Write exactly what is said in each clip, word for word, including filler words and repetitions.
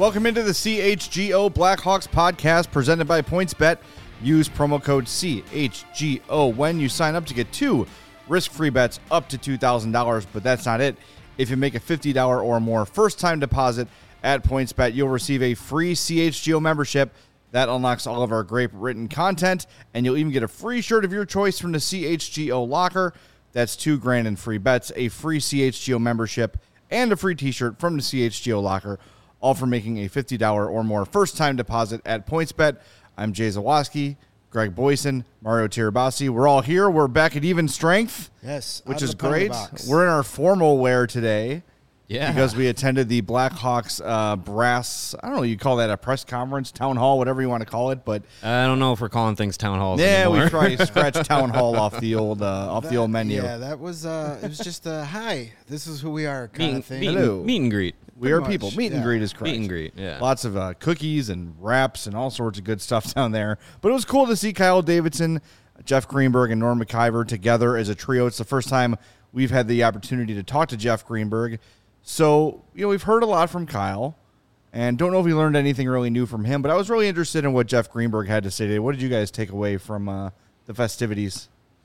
Welcome into the C H G O Blackhawks podcast presented by PointsBet. Use promo code C H G O when you sign up to get two risk-free bets up to two thousand dollars, but that's not it. If you make a fifty dollars or more first-time deposit at PointsBet, you'll receive a free C H G O membership that unlocks all of our great written content, and you'll even get a free shirt of your choice from the C H G O locker. That's two grand in free bets, a free C H G O membership, and a free t-shirt from the C H G O locker, all for making a fifty dollars or more first-time deposit at PointsBet. I'm Jay Zawaski, Greg Boyson, Mario Tirabassi. We're all here. We're back at even strength. Yes, which is great. We're in our formal wear today. Yeah. Because we attended the Blackhawks uh, brass, I don't know, you call that a press conference, town hall, whatever you want to call it, but I don't know if we're calling things town halls yeah, anymore. we tried to scratch town hall off the old uh, off that, the old menu. Yeah, that was uh, it was just a hi. This is who we are kind meet, of thing. meet, Hello. meet and greet. We Pretty are much, people. Meet and yeah. greet is correct. Meet and greet, yeah. Lots of uh, cookies and wraps and all sorts of good stuff down there. But it was cool to see Kyle Davidson, Jeff Greenberg, and Norm McIver together as a trio. It's the first time we've had the opportunity to talk to Jeff Greenberg. So, you know, we've heard a lot from Kyle, and don't know if we learned anything really new from him, but I was really interested in what Jeff Greenberg had to say today. What did you guys take away from uh, the festivities?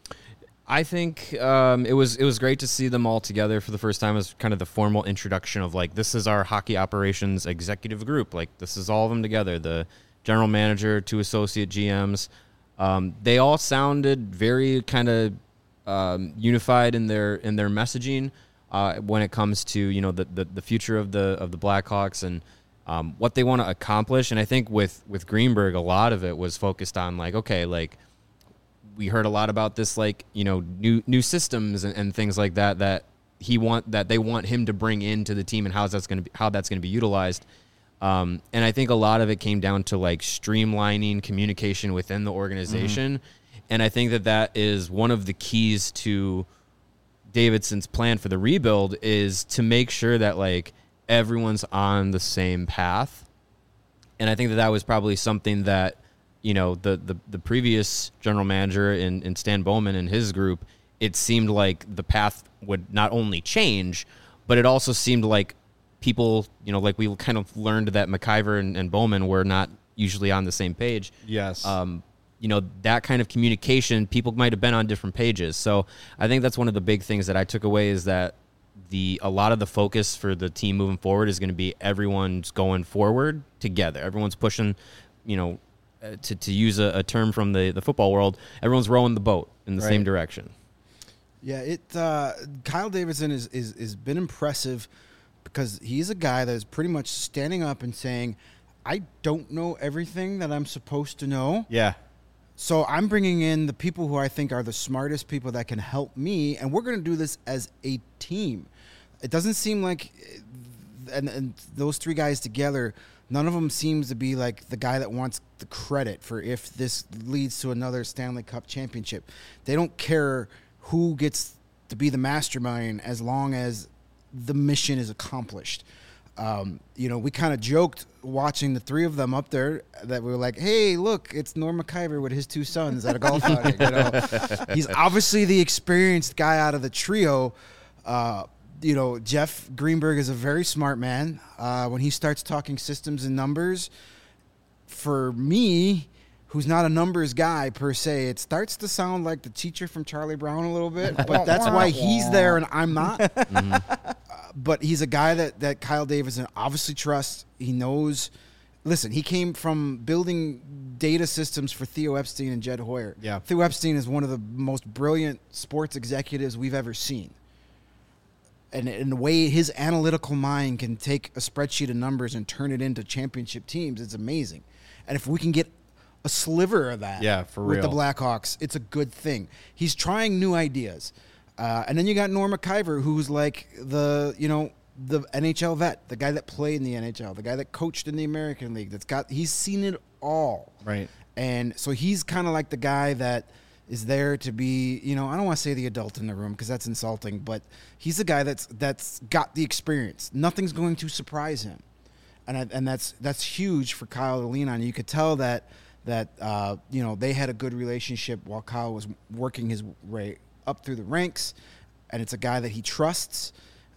I think um, it was it was great to see them all together for the first time as kind of the formal introduction of, like, this is our hockey operations executive group. Like, this is all of them together, the general manager, two associate G Ms. Um, they all sounded very kind of um, unified in their in their messaging. Uh, when it comes to, you know, the, the, the future of the of the Blackhawks and um, what they want to accomplish. And I think with, with Greenberg, a lot of it was focused on, like, okay, like, we heard a lot about this, like, you know, new new systems and, and things like that that he want that they want him to bring into the team and how that's going to be how that's going to be utilized. Um, and I think a lot of it came down to, like, streamlining communication within the organization. Mm-hmm. And I think that that is one of the keys to Davidson's plan for the rebuild, is to make sure that, like, everyone's on the same path. And I think that that was probably something that, you know, the the, the previous general manager in, in Stan Bowman and his group, it seemed like the path would not only change, but it also seemed like people, you know, like we kind of learned that McIver and, and Bowman were not usually on the same page. Yes. Um, you know, that kind of communication, people might have been on different pages. So I think that's one of the big things that I took away, is that the a lot of the focus for the team moving forward is going to be everyone's going forward together. Everyone's pushing, you know, uh, to, to use a, a term from the, the football world, everyone's rowing the boat in the Right. same direction. Yeah, it. Uh, Kyle Davidson is is is been impressive because he's a guy that is pretty much standing up and saying, "I don't know everything that I'm supposed to know." Yeah. So I'm bringing in the people who I think are the smartest people that can help me, and we're going to do this as a team. It doesn't seem like, and, and those three guys together, none of them seems to be like the guy that wants the credit for if this leads to another Stanley Cup championship. They don't care who gets to be the mastermind as long as the mission is accomplished. Um, you know, we kind of joked watching the three of them up there that we were like, hey, look, it's Norm McIver with his two sons at a golf outing. You know, he's obviously the experienced guy out of the trio. Uh, you know, Jeff Greenberg is a very smart man. Uh, when he starts talking systems and numbers, for me, who's not a numbers guy per se, it starts to sound like the teacher from Charlie Brown a little bit, but that's why he's there and I'm not. Mm-hmm. uh, but he's a guy that, that Kyle Davidson obviously trusts. He knows. Listen, he came from building data systems for Theo Epstein and Jed Hoyer. Yeah. Theo Epstein is one of the most brilliant sports executives we've ever seen. And in the way his analytical mind can take a spreadsheet of numbers and turn it into championship teams, it's amazing. And if we can get a sliver of that Yeah, for with real. the Blackhawks, it's a good thing. He's trying new ideas. Uh, and then you got Norm McIver, who's like the, you know, the N H L vet, the guy that played in the N H L, the guy that coached in the American League, that's got, he's seen it all. Right. And so he's kind of like the guy that is there to be, you know, I don't want to say the adult in the room because that's insulting, but he's the guy that's that's got the experience. Nothing's going to surprise him. And I, and that's that's huge for Kyle to lean on. You could tell that that uh, you know, they had a good relationship while Kyle was working his way up through the ranks, and it's a guy that he trusts.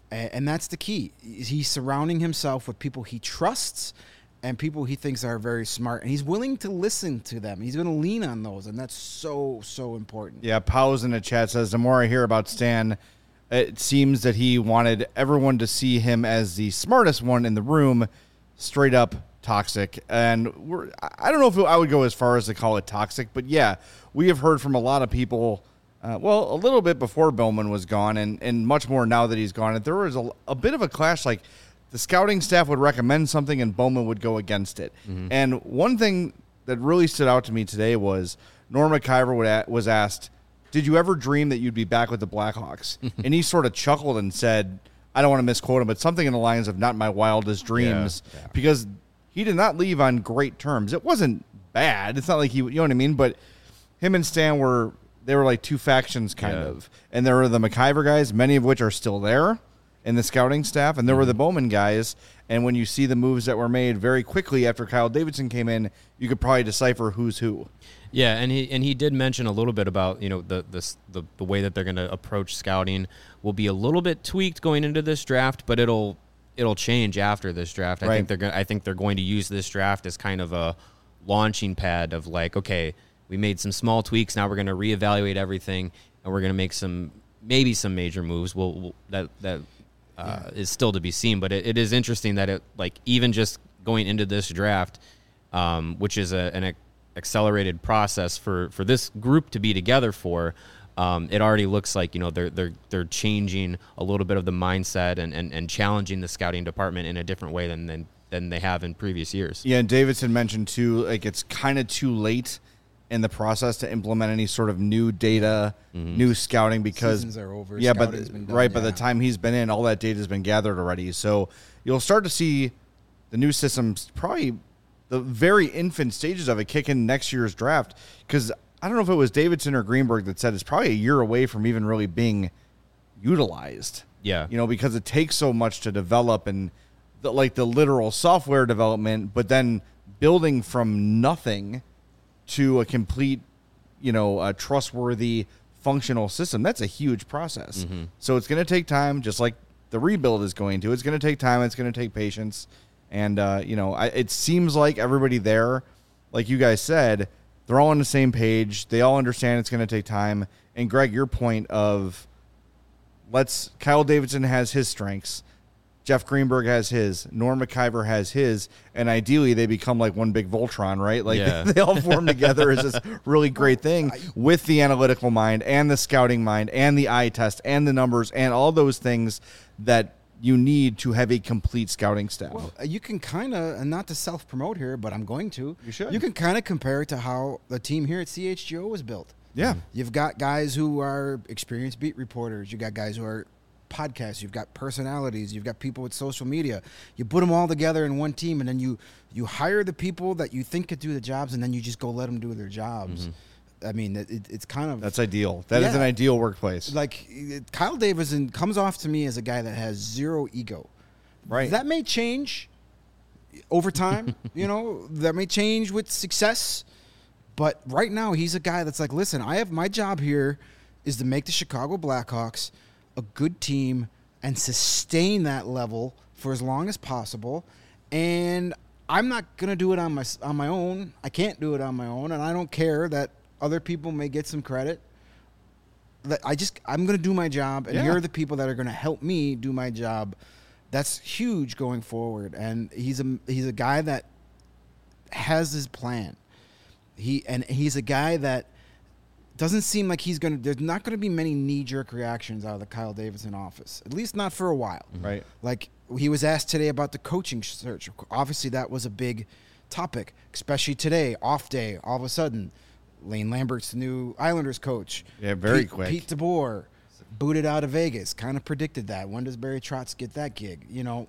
And, and that's the key. He's surrounding himself with people he trusts and people he thinks are very smart. And he's willing to listen to them. He's going to lean on those. And that's so, so important. Yeah, Powers in the chat says, the more I hear about Stan, it seems that he wanted everyone to see him as the smartest one in the room, straight up toxic. And we're, I don't know if I would go as far as to call it toxic, but yeah, we have heard from a lot of people, uh, well, a little bit before Bowman was gone and, and much more now that he's gone. And there was a, a bit of a clash, like the scouting staff would recommend something and Bowman would go against it. Mm-hmm. And one thing that really stood out to me today was Norm McIver would a- was asked, did you ever dream that you'd be back with the Blackhawks? And he sort of chuckled and said, I don't want to misquote him, but something in the lines of not my wildest dreams, yeah, yeah. because he did not leave on great terms. It wasn't bad. It's not like he, you know what I mean? But him and Stan were, they were like two factions kind yeah. of. And there were the McIver guys, many of which are still there in the scouting staff. And there mm-hmm. were the Bowman guys. And when you see the moves that were made very quickly after Kyle Davidson came in, you could probably decipher who's who. Yeah, and he and he did mention a little bit about, you know, the the the, the way that they're going to approach scouting will be a little bit tweaked going into this draft, but it'll it'll change after this draft. Right. I think they're going I think they're going to use this draft as kind of a launching pad of like, okay, we made some small tweaks, now we're going to reevaluate everything and we're going to make some maybe some major moves. We'll, we'll that that uh, yeah. is still to be seen, but it, it is interesting that it like even just going into this draft, um, which is a, an accelerated process for, for this group to be together for, um, it already looks like, you know, they're they're they're changing a little bit of the mindset and, and, and challenging the scouting department in a different way than, than than they have in previous years. Yeah, and Davidson mentioned too, like it's kind of too late in the process to implement any sort of new data, mm-hmm. new scouting because seasons are over. Yeah, Scout but has been done, right yeah. by the time he's been in, all that data has been gathered already. So you'll start to see the new systems probably the very infant stages of it kick in next year's draft because I don't know if it was Davidson or Greenberg that said it's probably a year away from even really being utilized. Yeah. You know, because it takes so much to develop and the, like the literal software development, but then building from nothing to a complete, you know, a trustworthy functional system. That's a huge process. Mm-hmm. So it's going to take time, just like the rebuild is going to. It's going to take time. It's going to take patience. And, uh, you know, I, it seems like everybody there, like you guys said, they're all on the same page. They all understand it's going to take time. And, Greg, your point of let's – Kyle Davidson has his strengths. Jeff Greenberg has his. Norm McIver has his. And ideally, they become like one big Voltron, right? Like yeah. they, they all form together as this really great thing with the analytical mind and the scouting mind and the eye test and the numbers and all those things that – you need to have a complete scouting staff. Well, you can kind of, and not to self-promote here, but I'm going to. You should. You can kind of compare it to how the team here at C H G O was built. Yeah. You've got guys who are experienced beat reporters. You've got guys who are podcasts. You've got personalities. You've got people with social media. You put them all together in one team, and then you, you hire the people that you think could do the jobs, and then you just go let them do their jobs. Mm-hmm. I mean, it, it's kind of... That's ideal. That yeah. is an ideal workplace. Like, it, Kyle Davidson comes off to me as a guy that has zero ego. Right. That may change over time. You know, that may change with success. But right now, he's a guy that's like, listen, I have my job here is to make the Chicago Blackhawks a good team and sustain that level for as long as possible. And I'm not going to do it on my on my own. I can't do it on my own, and I don't care that other people may get some credit. I just, I'm going to do my job, and yeah. here are the people that are going to help me do my job. That's huge going forward. And he's a he's a guy that has his plan. He and he's a guy that doesn't seem like he's going to. There's not going to be many knee-jerk reactions out of the Kyle Davidson office, at least not for a while. Right. Like he was asked today about the coaching search. Obviously, that was a big topic, especially today, off day. All of a sudden, Lane Lambert's the new Islanders coach. Yeah, very Pete, quick. Pete DeBoer booted out of Vegas. Kind of predicted that. When does Barry Trotz get that gig? You know.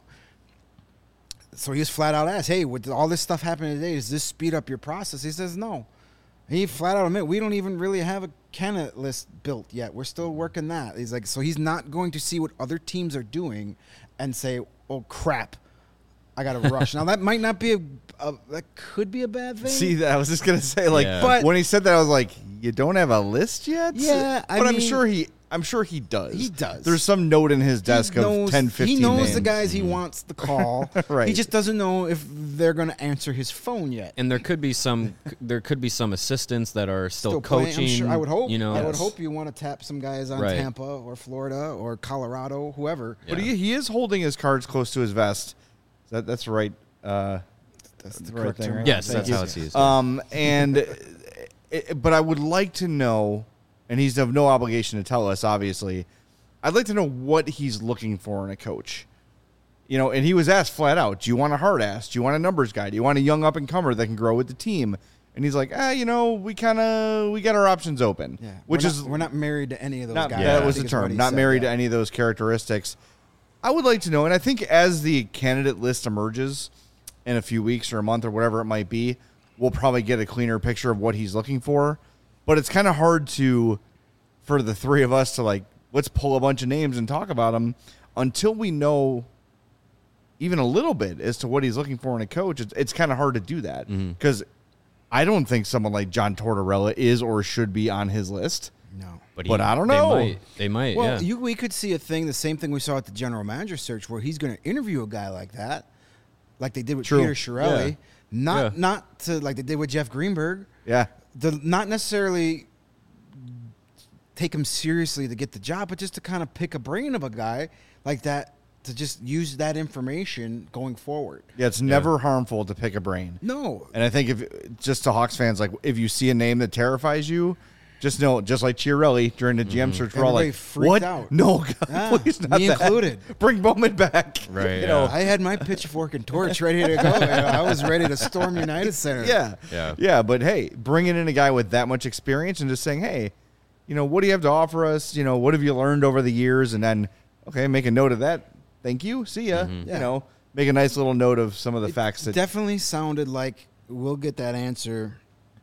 So he was flat out asked, "Hey, with all this stuff happening today, does this speed up your process?" He says, "No." He flat out admit, we don't even really have a candidate list built yet. We're still working that. He's like, so he's not going to see what other teams are doing and say, "Oh crap, I got to rush." Now that might not be a, a, that could be a bad thing. See, that I was just gonna say, like, yeah. but when he said that, I was like, "You don't have a list yet?" Yeah, I but mean, I'm sure he I'm sure he does. He does. There's some note in his desk He knows, of ten, fifteen He knows names. the guys he wants to call. Right. He just doesn't know if they're going to answer his phone yet. And there could be some there could be some assistants that are still, playing, coaching. I'm sure, I would hope. You know, I would Yes. hope you want to tap some guys on Right. Tampa or Florida or Colorado, whoever. Yeah. But he, he is holding his cards close to his vest. That that's right. Uh, That's the the right correct thing, term. right? Yes, Thank that's you. how it's used. Um, and it, but I would like to know, and he's of no obligation to tell us. Obviously, I'd like to know what he's looking for in a coach. You know, and he was asked flat out, "Do you want a hard ass? Do you want a numbers guy? Do you want a young up and comer that can grow with the team?" And he's like, "Ah, you know, we kind of we got our options open." Yeah, which we're is not, we're not married to any of those not, guys. that I was the think is what term. he Not said, married yeah. to any of those characteristics. I would like to know, and I think as the candidate list emerges in a few weeks or a month or whatever it might be, we'll probably get a cleaner picture of what he's looking for. But it's kind of hard to, for the three of us to like, let's pull a bunch of names and talk about them until we know even a little bit as to what he's looking for in a coach. It's, it's kind of hard to do that because I don't think someone like John Tortorella is or should be on his list. No. but I don't know. They might. They might Well, yeah. you, we could see a thing, the same thing we saw at the general manager search, where he's going to interview a guy like that, like they did with True. Peter Chiarelli, Yeah. not Yeah. not to like they did with Jeff Greenberg. Yeah. The not necessarily take him seriously to get the job, but just to kind of pick a brain of a guy like that to just use that information going forward. Yeah, it's never harmful to pick a brain. No, And I think if just to Hawks fans, like if you see a name that terrifies you, just know, just like Chiarelli during the G M search, we're all Everybody like, freaked "What? out. No, God, Yeah, please not me that. included. Bring Bowman back." Right, You yeah. know, I had my pitchfork and torch ready to go. I was ready to storm United Center. yeah, Yeah. yeah. But hey, bringing in a guy with that much experience and just saying, "Hey, you know, what do you have to offer us? You know, what have you learned over the years?" And then, okay, make a note of that. Thank you. See ya. You Yeah. know, make a nice little note of some of the It facts that. definitely sounded like we'll get that answer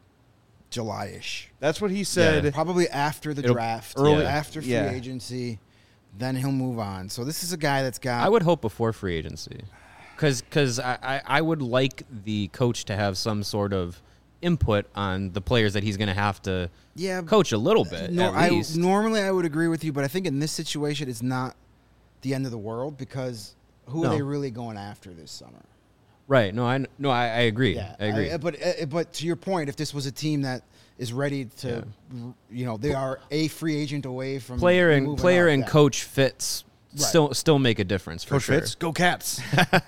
July-ish. That's what he said. Yeah. Probably after the It'll- draft, early- after free yeah. agency, then he'll move on. So this is a guy that's got. I would hope before free agency, because I, I, I would like the coach to have some sort of input on the players that he's going to have to yeah, coach a little bit No, at I, least. normally I would agree with you, but I think in this situation it's not the end of the world because who No. are they really going after this summer? Right? No, I no, I, I agree. Yeah, I agree. but uh, but to your point, if this was a team that is ready to, you know, they are a free agent away from player and moving player up, and yeah. coach fits Right. still still make a difference for Coach sure. Fitz, go Cats.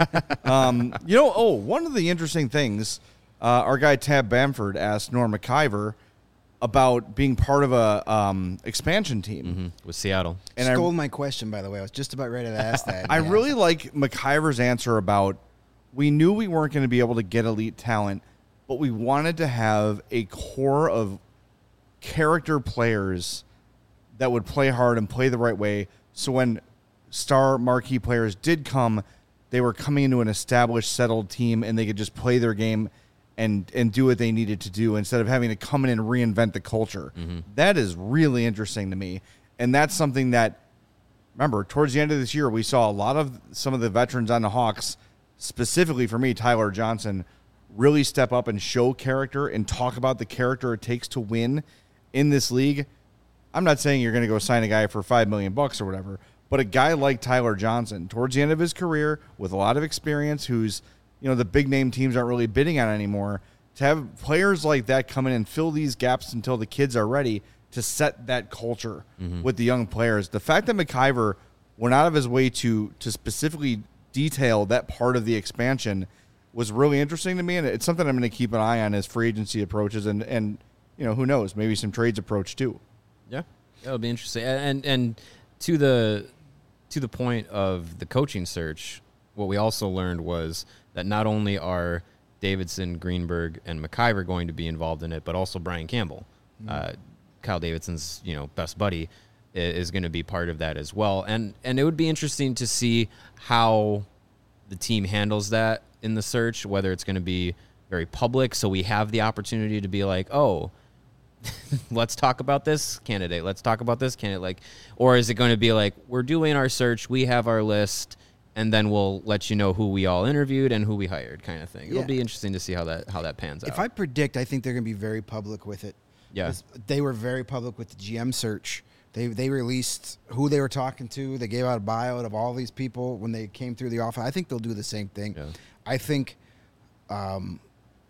um, you know, oh, one of the interesting things, uh, our guy Tab Bamford asked Norm McIver about being part of a um, expansion team. Mhm, with Seattle. And I, Stole my question, by the way. I was just about ready to ask that. I Yeah. really like McIver's answer about we knew we weren't going to be able to get elite talent, but we wanted to have a core of character players that would play hard and play the right way. So when star marquee players did come, they were coming into an established, settled team, and they could just play their game and and do what they needed to do instead of having to come in and reinvent the culture. That is really interesting to me, and that's something that. Remember, towards the end of this year, we saw a lot of some of the veterans on the Hawks, specifically for me, Tyler Johnson, really step up and show character and talk about the character it takes to win in this league. I'm not saying you're going to go sign a guy for five million bucks or whatever, but a guy like Tyler Johnson, towards the end of his career, with a lot of experience, who's, you know, the big name teams aren't really bidding on anymore, to have players like that come in and fill these gaps until the kids are ready to set that culture with the young players. The fact that McIver went out of his way to to specifically detail that part of the expansion was really interesting to me, and it's something I'm going to keep an eye on as free agency approaches, and, and you know, who knows, maybe some trades approach too. Yeah, that'll be interesting. And and to the to the point of the coaching search, what we also learned was that not only are Davidson, Greenberg, and McIver going to be involved in it, but also Brian Campbell, mm-hmm. uh, Kyle Davidson's you know best buddy, is going to be part of that as well. And and it would be interesting to see how the team handles that in the search, whether it's going to be very public, so we have the opportunity to be like, oh, let's talk about this candidate. Let's talk about this candidate. Like, or is it going to be like, we're doing our search, we have our list, and then we'll let you know who we all interviewed and who we hired, kind of thing. It'll Yeah. be interesting to see how that how that pans out. If I predict, I think they're going to be very public with it. Yeah. 'Cause they were very public with the G M search They they released who they were talking to. They gave out a bio of all these people when they came through the office. I think they'll do the same thing. Yeah. I think um,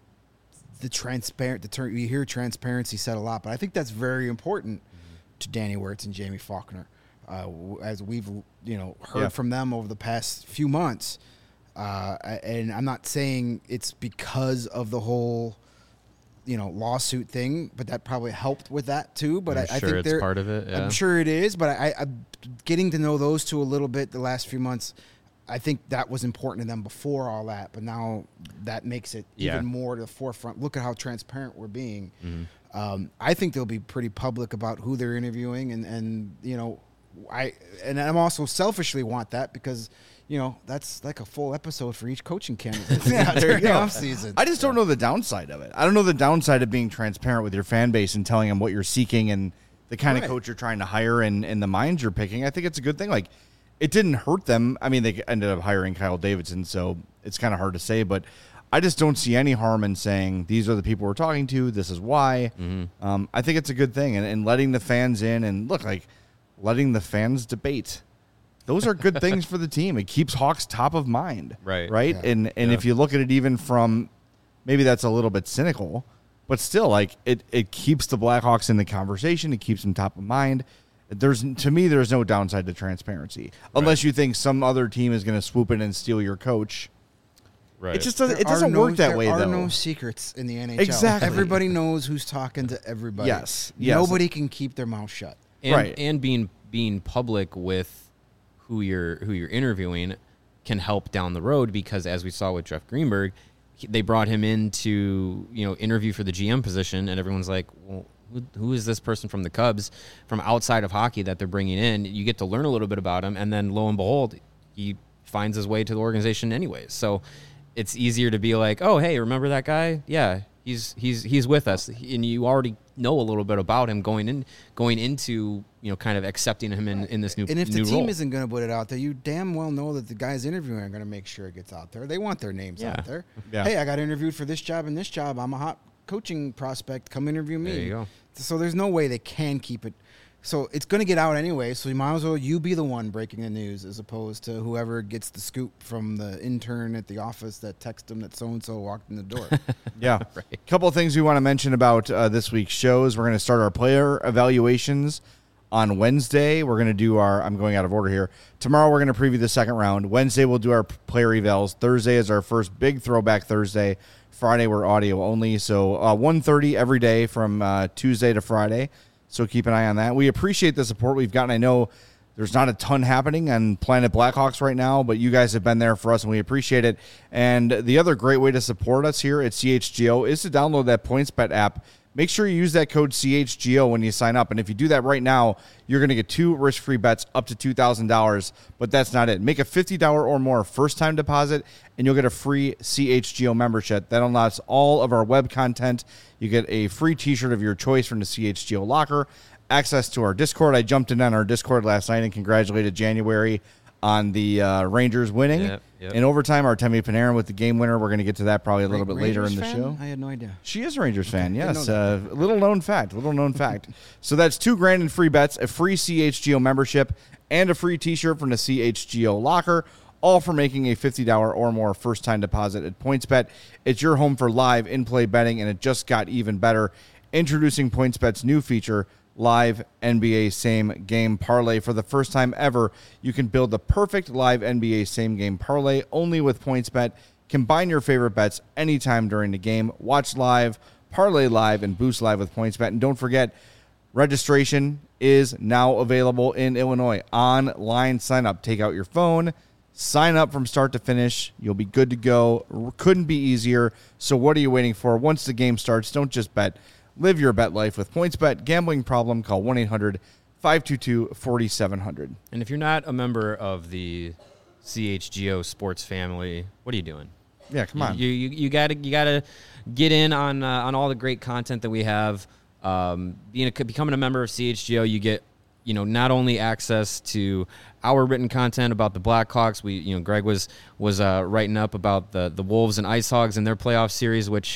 the transparent, the term, you hear transparency said a lot, but I think that's very important mm-hmm. to Danny Wirtz and Jamie Faulkner. Uh, as we've you know heard yeah. from them over the past few months. Uh, and I'm not saying it's because of the whole you know, lawsuit thing, but that probably helped with that too. But I, sure I think it's they're part of it. Yeah. I'm sure it is, but I, I, getting to know those two a little bit the last few months, I think that was important to them before all that. But now that makes it yeah. even more to the forefront. Look at how transparent we're being. Mm-hmm. Um, I think they'll be pretty public about who they're interviewing, and and you know, I and I'm also selfishly want that because. You know, that's like a full episode for each coaching candidate yeah, during the go. off season. I just don't know the downside of it. I don't know the downside of being transparent with your fan base and telling them what you're seeking and the kind right. of coach you're trying to hire and, and the minds you're picking. I think it's a good thing. Like, it didn't hurt them. I mean, they ended up hiring Kyle Davidson, so it's kind of hard to say, but I just don't see any harm in saying these are the people we're talking to. This is why. Mm-hmm. Um, I think it's a good thing. And, and letting the fans in and look, like letting the fans debate. Those are good things for the team. It keeps Hawks top of mind. Right. Right. Yeah. And and Yeah. if you look at it even from maybe that's a little bit cynical, but still like it, it keeps the Blackhawks in the conversation. It keeps them top of mind. There's to me, there's no downside to transparency unless you think some other team is going to swoop in and steal your coach. Right. It just doesn't, There it doesn't are no- work that way, There are though. no secrets in the N H L. Exactly. Everybody knows who's talking to everybody. Yes, yes. Nobody can keep their mouth shut. and, Right. and being being public with who you're who you're interviewing can help down the road because as we saw with Jeff Greenberg, he, they brought him in to you know interview for the G M position, and everyone's like, well, who, who is this person from the Cubs from outside of hockey that they're bringing in? You get to learn a little bit about him, and then lo and behold, he finds his way to the organization anyways. So it's easier to be like, oh, hey, remember that guy? Yeah, he's he's he's with us, and you already know a little bit about him going in going into you know kind of accepting him in, in this new And if new the team role. isn't going to put it out there, you damn well know that the guys interviewing are going to make sure it gets out there. They want their names Yeah. out there. Yeah. Hey, I got interviewed for this job and this job. I'm a hot coaching prospect. Come interview me. There you go. So there's no way they can keep it. So it's going to get out anyway. So you might as well you be the one breaking the news as opposed to whoever gets the scoop from the intern at the office that texted them that so and so walked in the door. Yeah. A couple of things we want to mention about uh, this week's shows. We're going to start our player evaluations on Wednesday. We're going to do our, I'm going out of order here. Tomorrow we're going to preview the second round. Wednesday we'll do our player evals. Thursday is our first big throwback Thursday. Friday we're audio only. So uh, one thirty every day from uh, Tuesday to Friday. So keep an eye on that. We appreciate the support we've gotten. I know there's not a ton happening on Planet Blackhawks right now, but you guys have been there for us, and we appreciate it. And the other great way to support us here at C H G O is to download that PointsBet app. Make sure you use that code C H G O when you sign up. And if you do that right now, you're going to get two risk-free bets up to two thousand dollars. But that's not it. Make a fifty dollars or more first-time deposit, and you'll get a free C H G O membership. That unlocks all of our web content. You get a free T-shirt of your choice from the C H G O locker. Access to our Discord. I jumped in on our Discord last night and congratulated January on the uh, Rangers winning. Yep, yep. In overtime, Artemi Panarin with the game winner. We're going to get to that probably a little bit later in Rangers the fan? show. I had no idea. She is a Rangers fan, Didn't yes. know Uh, little known fact, little known fact. So that's two grand in free bets, a free C H G O membership, and a free T-shirt from the C H G O locker, all for making a fifty dollars or more first-time deposit at PointsBet. It's your home for live in-play betting, and it just got even better. Introducing PointsBet's new feature, Live N B A Same Game Parlay. For the first time ever, you can build the perfect live N B A Same Game Parlay only with PointsBet. Combine your favorite bets anytime during the game. Watch live, parlay live, and boost live with PointsBet. And don't forget, registration is now available in Illinois. Online sign up. Take out your phone, sign up from start to finish. You'll be good to go. Couldn't be easier. So what are you waiting for? Once the game starts, don't just bet. Live your bet life with PointsBet. Gambling problem? Call one eight hundred five two two four seven zero zero. And if you're not a member of the C H G O sports family, what are you doing? Yeah, come on. You you, you gotta you gotta get in on uh, on all the great content that we have. Um, being a, becoming a member of C H G O, you get you know not only access to our written content about the Blackhawks. We you know Greg was was uh, writing up about the the Wolves and Ice Hogs and their playoff series, which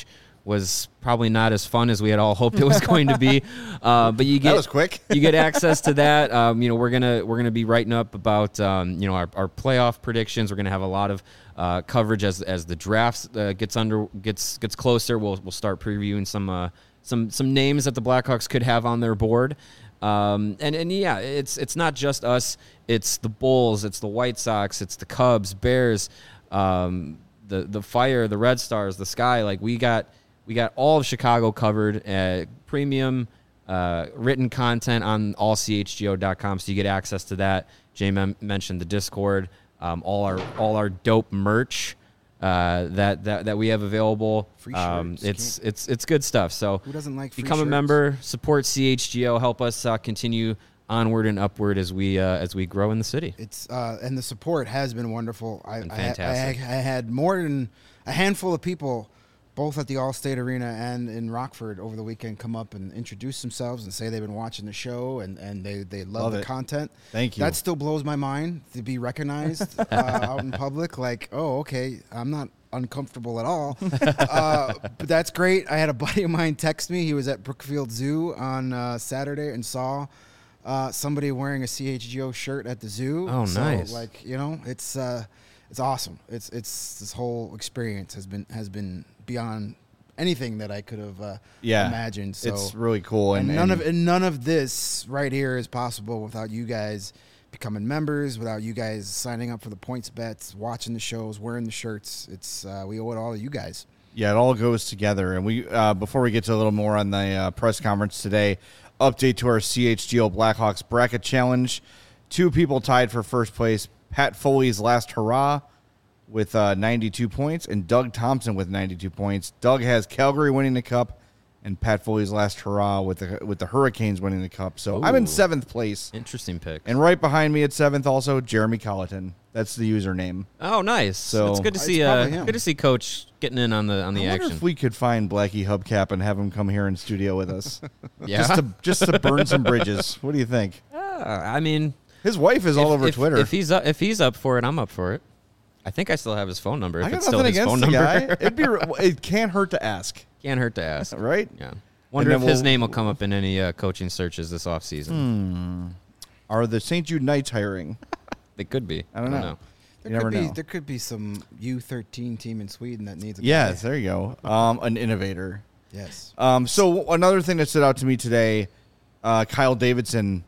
was probably not as fun as we had all hoped it was going to be. Uh, but you get That was quick. you get access to that. Um, you know, we're gonna we're gonna be writing up about um, you know our, our playoff predictions. We're gonna have a lot of uh, coverage as as the draft uh, gets under gets gets closer. We'll we'll start previewing some uh, some some names that the Blackhawks could have on their board. Um, and, and yeah, it's it's not just us. It's the Bulls, it's the White Sox, it's the Cubs, Bears, um, the the Fire, the Red Stars, the Sky. Like we got we got all of Chicago covered at premium uh, written content on all c h g o dot com, so you get access to that. Jay mem- mentioned the Discord, um, all our all our dope merch. Uh, that, that that we have available. Free um, shirts. it's it's it's good stuff. So Who doesn't like free become a shirts? member, support C H G O, help us uh, continue onward and upward as we uh, as we grow in the city. It's uh, and the support has been wonderful. I, Been I, fantastic. I, I had more than a handful of people, both at the Allstate Arena and in Rockford over the weekend, come up and introduce themselves and say they've been watching the show and, and they, they love, Love the it. content. Thank you. That still blows my mind to be recognized uh, out in public. Like, oh, okay, I'm not uncomfortable at all. uh, but that's great. I had a buddy of mine text me. He was at Brookfield Zoo on uh, Saturday and saw uh, somebody wearing a C H G O shirt at the zoo. Oh, so, nice. Like, you know, it's uh, it's awesome. It's it's this whole experience has been has been beyond anything that I could have uh, Yeah. imagined. So It's really cool. and, And, none and of and none of this right here is possible without you guys becoming members, without you guys signing up for the points bets, watching the shows, wearing the shirts. It's uh, we owe it all to you guys. Yeah, it all goes together. And we, uh, before we get to a little more on the uh, press conference today, update to our C H G O Blackhawks bracket challenge. Two people tied for first place. Pat Foley's last hurrah with uh, ninety-two points, and Doug Thompson with ninety-two points. Doug has Calgary winning the cup, and Pat Foley's last hurrah with the with the Hurricanes winning the cup. So I'm in Ooh. seventh place, Interesting pick. and right behind me at seventh, also Jeremy Colleton. That's the username. Oh, nice. So- it's good to It's see. Uh, probably him. good to see Coach getting in on the on the I wonder action. if we could find Blackie Hubcap and have him come here in studio with us, yeah. just to just to burn some bridges. What do you think? Uh, I mean, His wife is all if- over if, Twitter. If he's up, if he's up for it, I'm up for it. I think I still have his phone number. If I got it's still nothing his against phone the number, guy. It'd be it can't hurt to ask, can't hurt to ask. right? Yeah. Wonder And if then his we'll- name will come up in any uh, coaching searches this offseason. Are the Saint Jude Knights hiring? It could be. I don't know. There You could never be know. there could be some U thirteen team in Sweden that needs a Yes, guy. there you go. Um, an innovator. Yes. Um, so another thing that stood out to me today, uh, Kyle Davidson,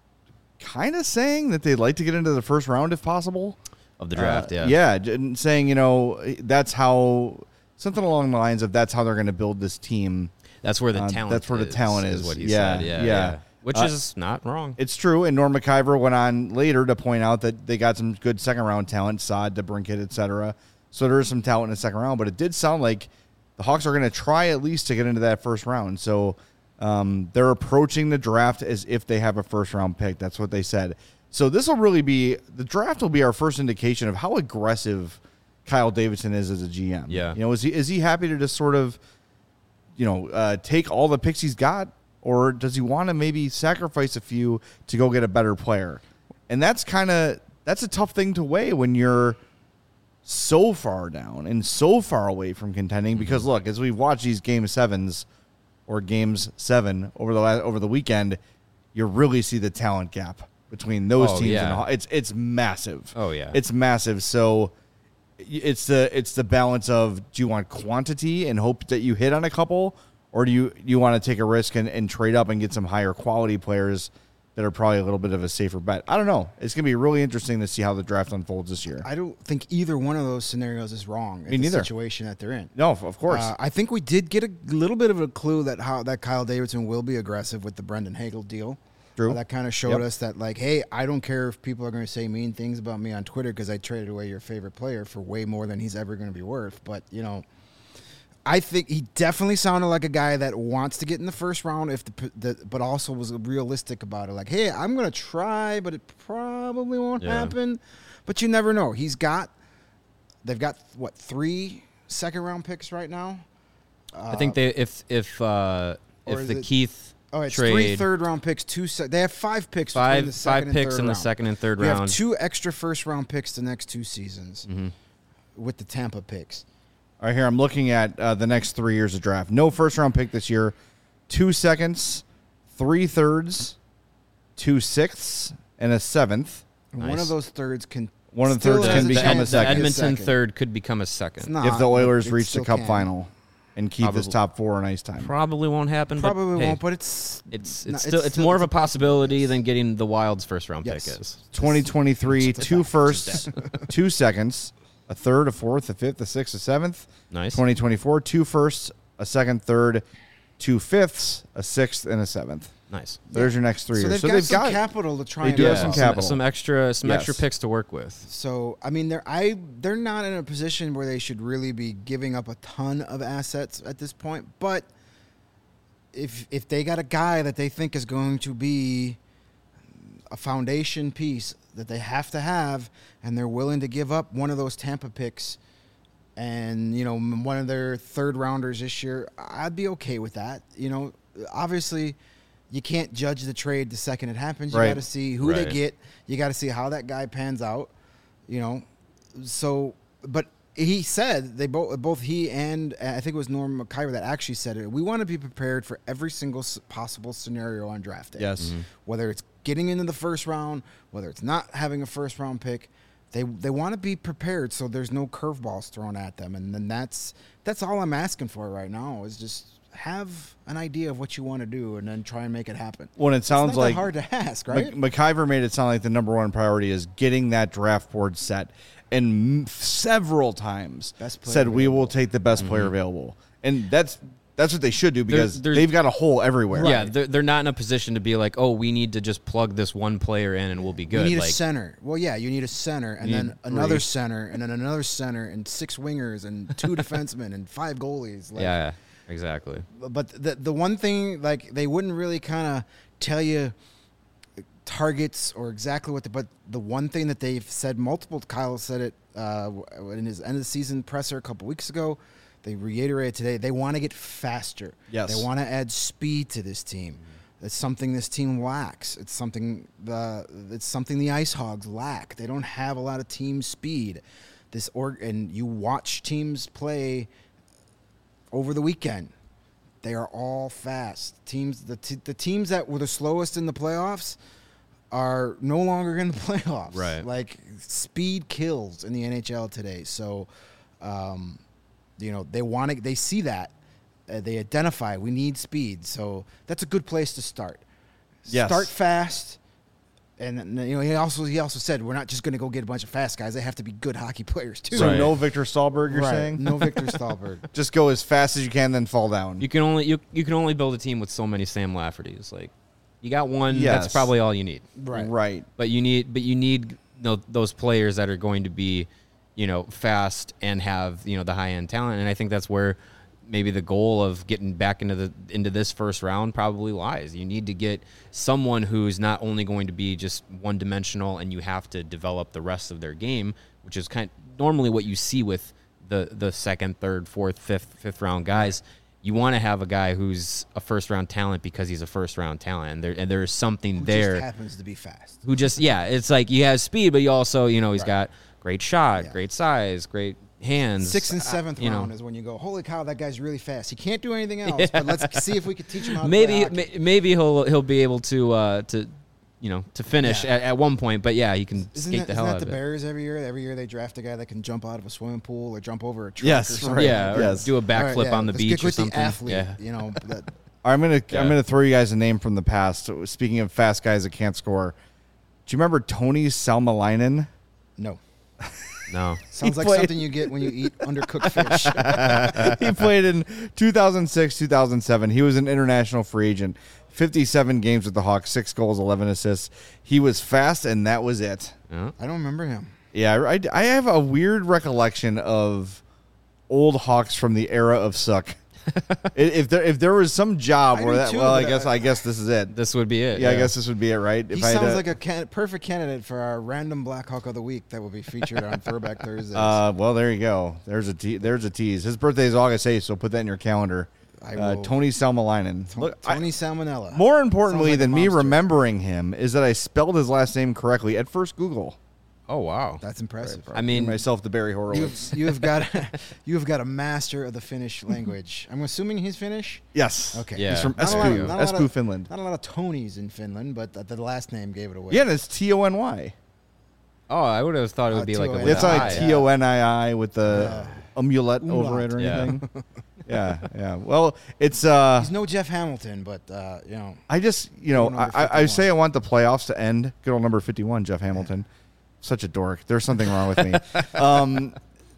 kind of saying that they'd like to get into the first round if possible. Of the draft, Uh, yeah. Yeah, j- and saying, you know, that's how, something along the lines of that's how they're going to build this team. That's where the Uh, talent that's where the is, talent is. what he Yeah, said. Yeah, yeah. yeah. Which Uh, is not wrong. It's true, and Norm McIver went on later to point out that they got some good second-round talent, Saad, DeBrincat, et cetera. So there is some talent in the second round, but it did sound like the Hawks are going to try at least to get into that first round. So um, they're approaching the draft as if they have a first-round pick. That's what they said. So this will really be – the draft will be our first indication of how aggressive Kyle Davidson is as a G M. Yeah. You know, is he is he happy to just sort of, you know, uh, take all the picks he's got, or does he want to maybe sacrifice a few to go get a better player? And that's kind of that's a tough thing to weigh when you're so far down and so far away from contending. Mm-hmm. Because look, as we've watched these game sevens or games seven over the last, over the weekend, you really see the talent gap between those Oh, teams. yeah. And the Haw- it's it's massive. Oh, yeah. it's massive. So it's the it's the balance of, do you want quantity and hope that you hit on a couple, or do you you want to take a risk and, and trade up and get some higher quality players that are probably a little bit of a safer bet? I don't know. It's going to be really interesting to see how the draft unfolds this year. I don't think either one of those scenarios is wrong in Me the neither. situation that they're in. No, of course. Uh, I think we did get a little bit of a clue that how that Kyle Davidson will be aggressive with the Brendan Hagel deal. True. Uh, that kind of showed Yep. us that, like, hey, I don't care if people are going to say mean things about me on Twitter because I traded away your favorite player for way more than he's ever going to be worth. But, you know, I think he definitely sounded like a guy that wants to get in the first round, if the, the but also was realistic about it. Like, hey, I'm going to try, but it probably won't Yeah. happen. But you never know. He's got, they've got, what, three second round picks right now? I think they if if uh, or if is the it- Keith Oh, it's trade three third round picks, two. Se- they have five picks. between five the second five and picks third in the round. second and third We round. have two extra first round picks the next two seasons Mm-hmm. with the Tampa picks. All right, here I'm looking at uh, the next three years of draft. No first round pick this year. Two seconds, three thirds, two sixths, and a seventh. One Nice. of those thirds can. One of the still thirds has can a become chance a to The second. be a Edmonton second. third could become a It's second. not, If the Oilers but it reach the still Cup can. final and keep this Probably. top four in ice time. Probably won't happen. Probably but, hey, won't, but it's It's no, it's still it's, more of a possibility than getting the Wild's first round Yes. pick is. twenty twenty-three, Just a two fact. firsts, two seconds, a third, a fourth, a fifth, a sixth, a seventh. Nice. twenty twenty-four, two firsts, a second, third, two fifths, a sixth, and a seventh. Nice. There's your next three so years. they've So got they've some got capital to try they and do have get some off. capital. Some extra some extra Yes. picks to work with. So I mean, they're I they're not in a position where they should really be giving up a ton of assets at this point. But if if they got a guy that they think is going to be a foundation piece that they have to have, and they're willing to give up one of those Tampa picks, and you know m- one of their third rounders this year, I'd be okay with that. You know, obviously. You can't judge the trade the second it happens. You Right. got to see who they Right. get. You got to see how that guy pans out. You know, so but he said they both both he and uh, I think it was Norm McIver that actually said it. We want to be prepared for every single s- possible scenario on draft day. Yes. Mhm. Whether it's getting into the first round, whether it's not having a first round pick, they they want to be prepared so there's no curveballs thrown at them. And then that's that's all I'm asking for right now is just have an idea of what you want to do and then try and make it happen. When it It's sounds not that like hard to ask, right? Mc- McIver made it sound like the number one priority is getting that draft board set, and m- several times Best player said we will available. take the best player available, and that's that's what they should do because there's- they've got a hole everywhere. Yeah, they're, they're not in a position to be like, oh, we need to just plug this one player in and we'll be good. You need like, a center. Well, yeah, you need a center, and You then need another three. center, and then another center, and six wingers, and two defensemen, and five goalies. Like, yeah, yeah, exactly. But the the one thing, like, they wouldn't really kind of tell you targets or exactly what the, but the one thing that they've said multiple, Kyle said it uh, in his end of the season presser a couple weeks ago. They reiterated today. They want to get faster. Yes. They want to add speed to this team. It's something this team lacks. It's something the it's something the Ice Hogs lack. They don't have a lot of team speed. This org and you watch teams play over the weekend. They are all fast. Teams the t- the teams that were the slowest in the playoffs are no longer in the playoffs. Right. Like speed kills in the N H L today. So um, you know, they want to they see that. Uh, they identify we need speed. So that's a good place to start. Yes. Start fast. And and, you know, he also he also said we're not just going to go get a bunch of fast guys. They have to be good hockey players too. So Right. no Victor Stahlberg, you're Right. saying? No Victor Stahlberg. Just go as fast as you can, then fall down. You can only you you can only build a team with so many Sam Laffertys. Like, you got one. Yes. That's probably all you need. Right. Right. But you need but you need you know, those players that are going to be, you know, fast and have, you know, the high end talent. And I think that's where maybe the goal of getting back into the into this first round probably lies. You need to get someone who's not only going to be just one dimensional and you have to develop the rest of their game, which is kind of normally what you see with the the second, third, fourth, fifth, fifth round guys. You want to have a guy who's a first round talent because he's a first round talent, and there and there is something Who there just happens to be fast. who just yeah, it's like he has speed, but you also you know he's Right. got great shot, Yeah. great size, great hands. Sixth and Uh, seventh you know. round is when you go, holy cow, that guy's really fast. He can't do anything else, but let's see if we could teach him how to Maybe play hockey. ma- maybe he'll he'll be able to uh, to you know to finish Yeah. at, at one point, but yeah, he can Isn't skate that, the isn't hell that out the of it. Bears every year? Every year they draft a guy that can jump out of a swimming pool or jump over a truck Yes, or right. something. Yeah, or Yes. do a All backflip right, yeah, on the let's beach get or with something. the athlete, Yeah. you know. That, I'm gonna Yeah. I'm gonna throw you guys a name from the past. So, speaking of fast guys that can't score, do you remember Tony Salmelainen? no. No, Sounds like played- something you get when you eat undercooked fish. He played in two thousand six, two thousand seven. He was an international free agent. fifty-seven games with the Hawks, six goals, eleven assists. He was fast, and that was it. no. I don't remember him. Yeah, I, I have a weird recollection of old Hawks from the era of suck. if there if there was some job I where do that, too, well, I but guess I- I guess this is it. This would be it. Yeah, I guess this would be it, right? He If I had sounds to- like a can- perfect candidate for our random Black Hawk of the Week that will be featured on Throwback Thursdays. Uh, well, there you go. There's a te- there's a tease. His birthday is August eighth, so put that in your calendar. I Uh, will- Tony Salmelainen. To- Look, I- Tony Salmonella. more importantly Sounds like a than me monster. remembering him is that I spelled his last name correctly at first Google. Oh wow. That's impressive. I mean, myself the Barry Horowitz. You've, you've got you've got a master of the Finnish language. I'm assuming he's Finnish. Yes. Okay. Yeah. He's from Not a lot of- Espoo, not a lot Espoo, of- Finland. Not a lot of Tonys in Finland, but the, the last name gave it away. Yeah, and it's T O N Y. oh, I would have thought it Uh, would be like a T O N Y. with It's an like I. T O N I I with the Yeah. amulet Umlaut. over it or Yeah. anything. yeah, yeah. Well, it's uh He's no Jeff Hamilton, but uh, you know, I just, you know, Good old number I, I fifty-one. say I want the playoffs to end. Good old number fifty-one, Jeff Hamilton. Such a dork. There's something wrong with me. um,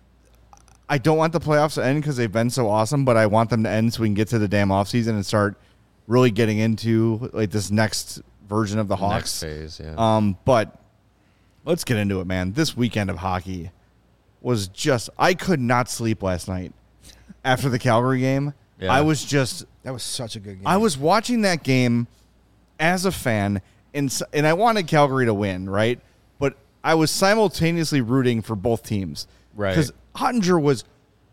I don't want the playoffs to end because they've been so awesome, but I want them to end so we can get to the damn offseason and start really getting into like this next version of the The Hawks. next phase, yeah. Um, but let's get into it, man. This weekend of hockey was just, I could not sleep last night after the Calgary game. Yeah. I was just, that was such a good game. I was watching that game as a fan, and, s- and I wanted Calgary to win, right? But I was simultaneously rooting for both teams. Right. Because Ottinger was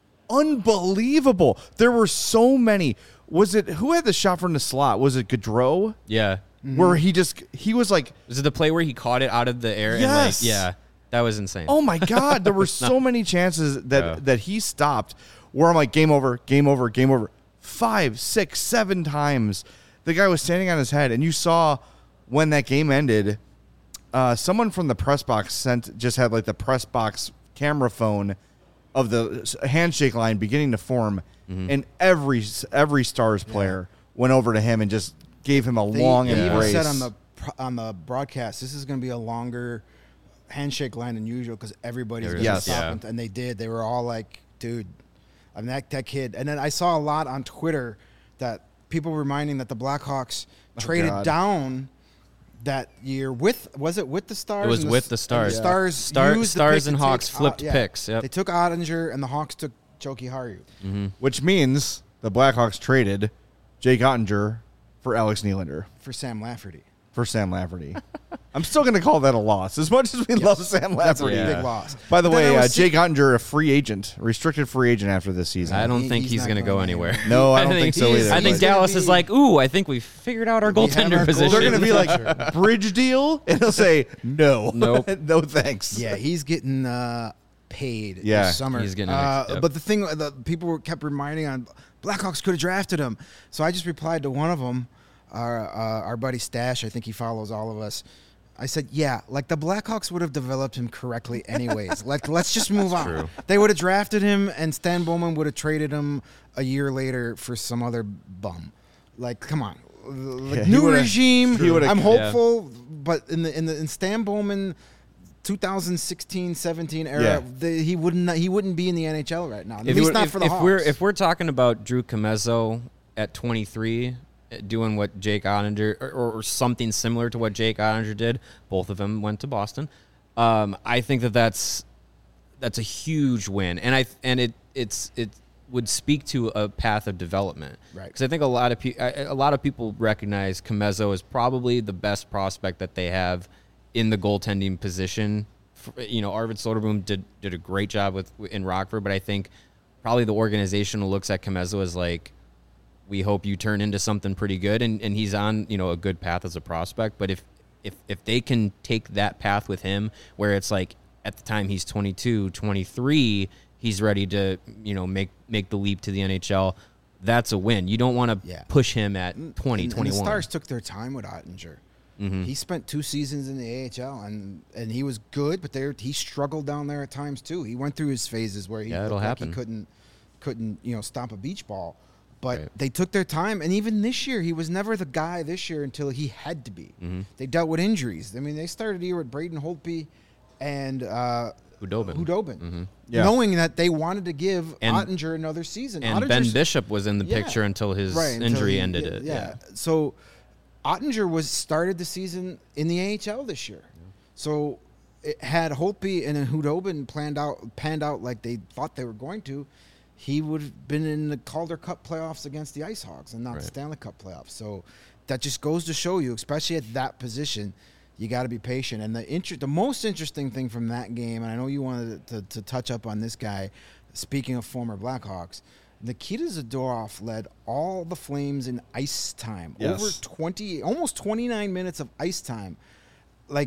unbelievable. There were so many. Was it, who had the shot from the slot? Was it Gaudreau? yeah. Where he just, he was like, Was it the play where he caught it out of the air? Yes. And like, yeah. That was insane. oh my God, there were so many chances that, Yeah. that he stopped where I'm like, game over, game over, game over. Five, six, seven times. The guy was standing on his head, and you saw when that game ended, uh, someone from the press box sent, just had like the press box camera phone of the s- handshake line beginning to form, Mm-hmm. and every every Stars player went over to him and just gave him a They, long they even embrace. said on the pro- on the broadcast, this is going to be a longer handshake line than usual because everybody's going to Yes. stop, Yeah. and, and they did. They were all like, "Dude, I mean that that kid." And then I saw a lot on Twitter that people reminding that the Blackhawks traded God. down that year with was it with the Stars? It was And the with S- the and Stars. The Stars, Star- used the Stars pick and to take Hawks flipped Ot- yeah. picks, yep. They took Ottinger, and the Hawks took Joki Haru. Which means the Blackhawks traded Jake Ottinger for Alex Nylander For Sam Lafferty. for Sam Lafferty. I'm still going to call that a loss, as much as we love Sam That's a Lafferty. Yeah. big loss. By the But then way, I uh, was Jake Ottinger, a free agent, restricted free agent after this season. I don't He- think he's he's, not going to go going anywhere. anywhere. No, I don't think think so he's- either. I think He's gonna Dallas be- is like, ooh, I think we figured out our We have goaltender our position. They're going to be like, Sure. bridge deal? And he'll say, no. Nope. no thanks. Yeah, he's getting uh, paid Yeah, this summer. he's getting Uh, ex- yep. But the thing, the people were kept reminding on Blackhawks could have drafted him. So I just replied to one of them, our uh, our buddy Stash. I think he follows all of us. I said, yeah, like the Blackhawks would have developed him correctly anyways. like, let's just move on. true. They would have drafted him, and Stan Bowman would have traded him a year later for some other bum. Like, come on. Like, Yeah, he new would've- regime. he would've- I'm Yeah. hopeful, but in the in the in Stan Bowman twenty sixteen seventeen era, Yeah. the, he wouldn't he wouldn't be in the N H L right now. At If, least you- not if- for the if Hawks. we're if we're talking about Drew Comezzo at twenty-three, uh, doing what Jake Ottinger or, or something similar to what Jake Ottinger did, both of them went to Boston. Um, I think that that's that's a huge win, and I and it it's it would speak to a path of development, Right. Because I think a lot of pe- a a lot of people recognize Comezzo as probably the best prospect that they have in the goaltending position. F- You know, Arvid Soderblom did did a great job with in Rockford, but I think probably the organization looks at Comezzo as like, we hope you turn into something pretty good, and, and he's on, you know, a good path as a prospect. But if if if they can take that path with him, where it's like at the time he's twenty-two, twenty-three, he's ready to, you know, make make the leap to the N H L, that's a win. You don't want to Yeah. push him at twenty, and, and twenty-one. the Stars took their time with Ottinger. Mm-hmm. He spent two seasons in the A H L, and and he was good, but there he struggled down there at times too. He went through his phases where he, Yeah, looked it'll like happen. he couldn't couldn't you know stomp a beach ball. But Right. they took their time, and even this year, he was never the guy this year until he had to be. Mm-hmm. They dealt with injuries. I mean, they started the year with Braden Holtby and uh, Hudobin. Hudobin, Mm-hmm. Yeah. knowing that they wanted to give And- Ottinger another season. And Ben Ottinger's- Bishop was in the Yeah. picture until his Right, until injury he- ended yeah, it. Yeah. So Ottinger was started the season in the A H L this year. So it had Holtby and then Hudobin planned out panned out like they thought they were going to, he would have been in the Calder Cup playoffs against the Ice Hogs and not Right. the Stanley Cup playoffs. So that just goes to show you, especially at that position, you got to be patient. And the inter- the most interesting thing from that game, and I know you wanted to, to touch up on this guy, speaking of former Blackhawks, Nikita Zadorov led all the Flames in ice time. Yes. Over twenty, almost twenty-nine minutes of ice time. Like,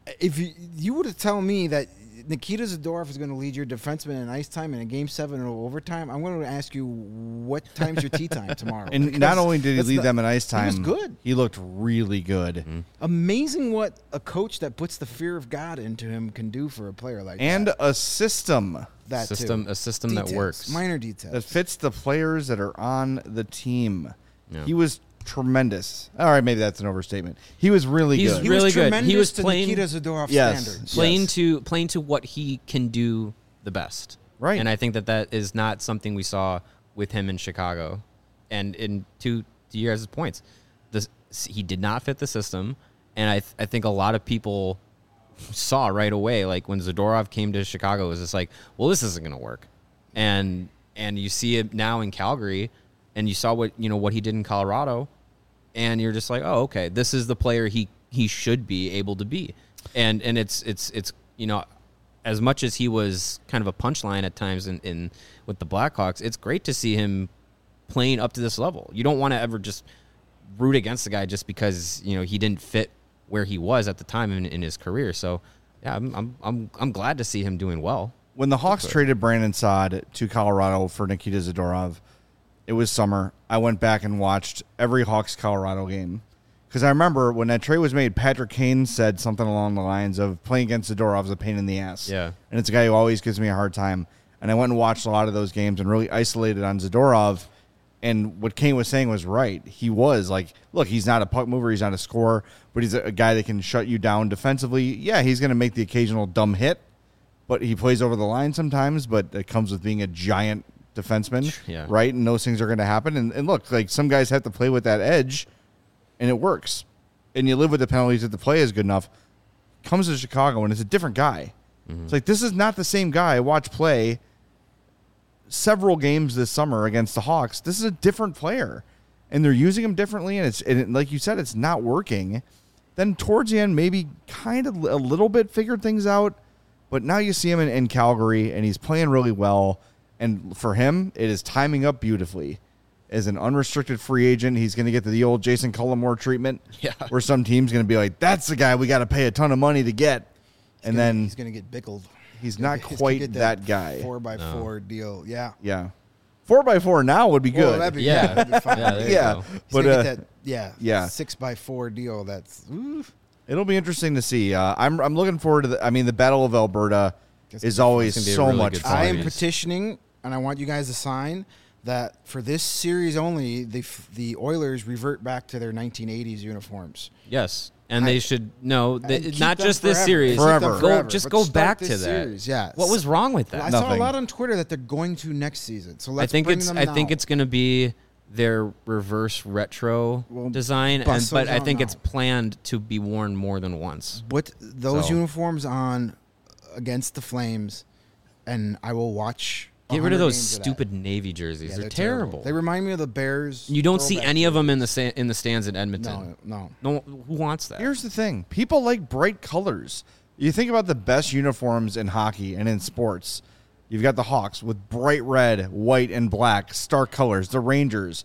if you you would have told me that Nikita Zadorov is going to lead your defenseman in ice time in a game seven or overtime, I'm going to ask you what time's your tea time tomorrow. And Because not only did he that's lead not- them in ice time, he was good. He looked really good. Mm-hmm. Amazing what a coach that puts the fear of God into him can do for a player like And that. a system That system too. a system that Details, works. minor details. that fits the players that are on the team. Yeah. He was tremendous. All right, maybe that's an overstatement. He was really He's good. he really was good. He tremendous was to playing- Nikita Zadorov Yes. standards. playing Yes. to playing to what he can do the best. Right. And I think that that is not something we saw with him in Chicago. And in two to your guys' points, this he did not fit the system, and I th- I think a lot of people saw right away, like when Zadorov came to Chicago, it was just like, well, this isn't going to work. And and you see it now in Calgary, and you saw what you know what he did in Colorado, and you're just like, oh, okay, this is the player he he should be able to be. And and it's it's it's you know, as much as he was kind of a punchline at times in, in with the Blackhawks, it's great to see him playing up to this level. You don't want to ever just root against the guy just because you know he didn't fit where he was at the time in, in his career. So yeah, I'm I'm I'm I'm glad to see him doing well. When the Hawks traded Brandon Saad to Colorado for Nikita Zadorov, it was summer. I went back and watched every Hawks Colorado game. Because I remember when that trade was made, Patrick Kane said something along the lines of playing against Zadorov is a pain in the ass. Yeah. And it's a guy who always gives me a hard time. And I went and watched a lot of those games and really isolated on Zadorov. And what Kane was saying was right. He was like, look, he's not a puck mover, he's not a scorer, but he's a, a guy that can shut you down defensively. Yeah, he's going to make the occasional dumb hit, but he plays over the line sometimes, but it comes with being a giant defenseman, Yeah. right? And those things are going to happen. And, and look, like some guys have to play with that edge, and it works. And you live with the penalties if the play is good enough. Comes to Chicago, and it's a different guy. Mm-hmm. It's like, this is not the same guy I watched play several games this summer against the Hawks. This is a different player, and they're using him differently, and it's and it, like you said, it's not working. Then towards the end, maybe kind of a little bit figured things out, but now you see him in, in Calgary, and he's playing really well. And for him, it is timing up beautifully. As an unrestricted free agent, he's going to get the old Jason Cullimore treatment, Yeah. where some team's going to be like, "That's the guy we got to pay a ton of money to get," and Gonna- then he's going to get bickled. he's not He's gonna quite get that guy. Four by four deal. Yeah. Yeah, four by four now would be good. Well, that'd be, Yeah. that'd be fine. Yeah, there you yeah, go. He's but gonna uh, get that, yeah, yeah. six by four deal. That's oof. it'll be interesting to see. Uh, I'm I'm looking forward to the. I mean, the Battle of Alberta That's is gonna be always It's gonna be a so really much good fun. I am series. petitioning, and I want you guys to sign that for this series only, the f- the Oilers revert back to their nineteen eighties uniforms. Yes. And I- they should no, And they, keep not them just this forever. series. Keep them Forever. Go forever, just but go start back this to that. series, yeah. What was wrong with I that? saw a Nothing. lot on Twitter that they're going to next season. So let's I think bring it's them I think now. it's going to be their reverse retro Well, design, and bust but those I out think now. it's planned to be worn more than once. Put those So- uniforms on against the Flames, and I will watch. Get rid of one hundred those games that. stupid navy jerseys. Yeah, they're, terrible. They remind me of the Bears. You don't see throwback any of them in the jerseys. sta- in the stands in Edmonton. No, no. No, who wants that? Here's the thing: people like bright colors. You think about the best uniforms in hockey and in sports. You've got the Hawks with bright red, white, and black, stark colors. The Rangers,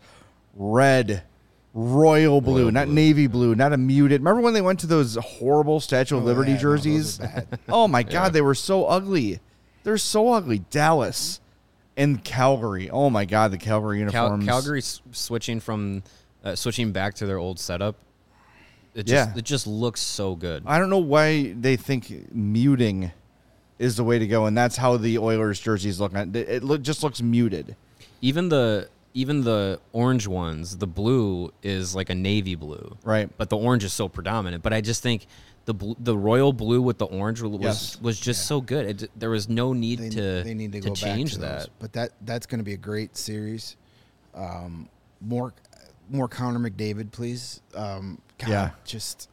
red, royal blue, Royal not blue. navy blue, not a muted. Remember when they went to those horrible Statue of Oh, Liberty yeah, no, those are jerseys? bad. Oh my God, Yeah. they were so ugly. They're so ugly. Dallas and Calgary. Oh my God, the Calgary Cal- uniforms. Calgary s- switching from uh, switching back to their old setup. It just, Yeah. it just looks so good. I don't know why they think muting is the way to go, and that's how the Oilers jerseys look. It it look, just looks muted. Even the even the orange ones, the blue is like a navy blue, Right. But the orange is so predominant. But I just think the bl- the royal blue with the orange was Yes. was just so good. It, there was no need They, to they need to, to go change back to that. those. But that that's going to be a great series. Um, more more Connor McDavid, please. Um, God, Yeah. just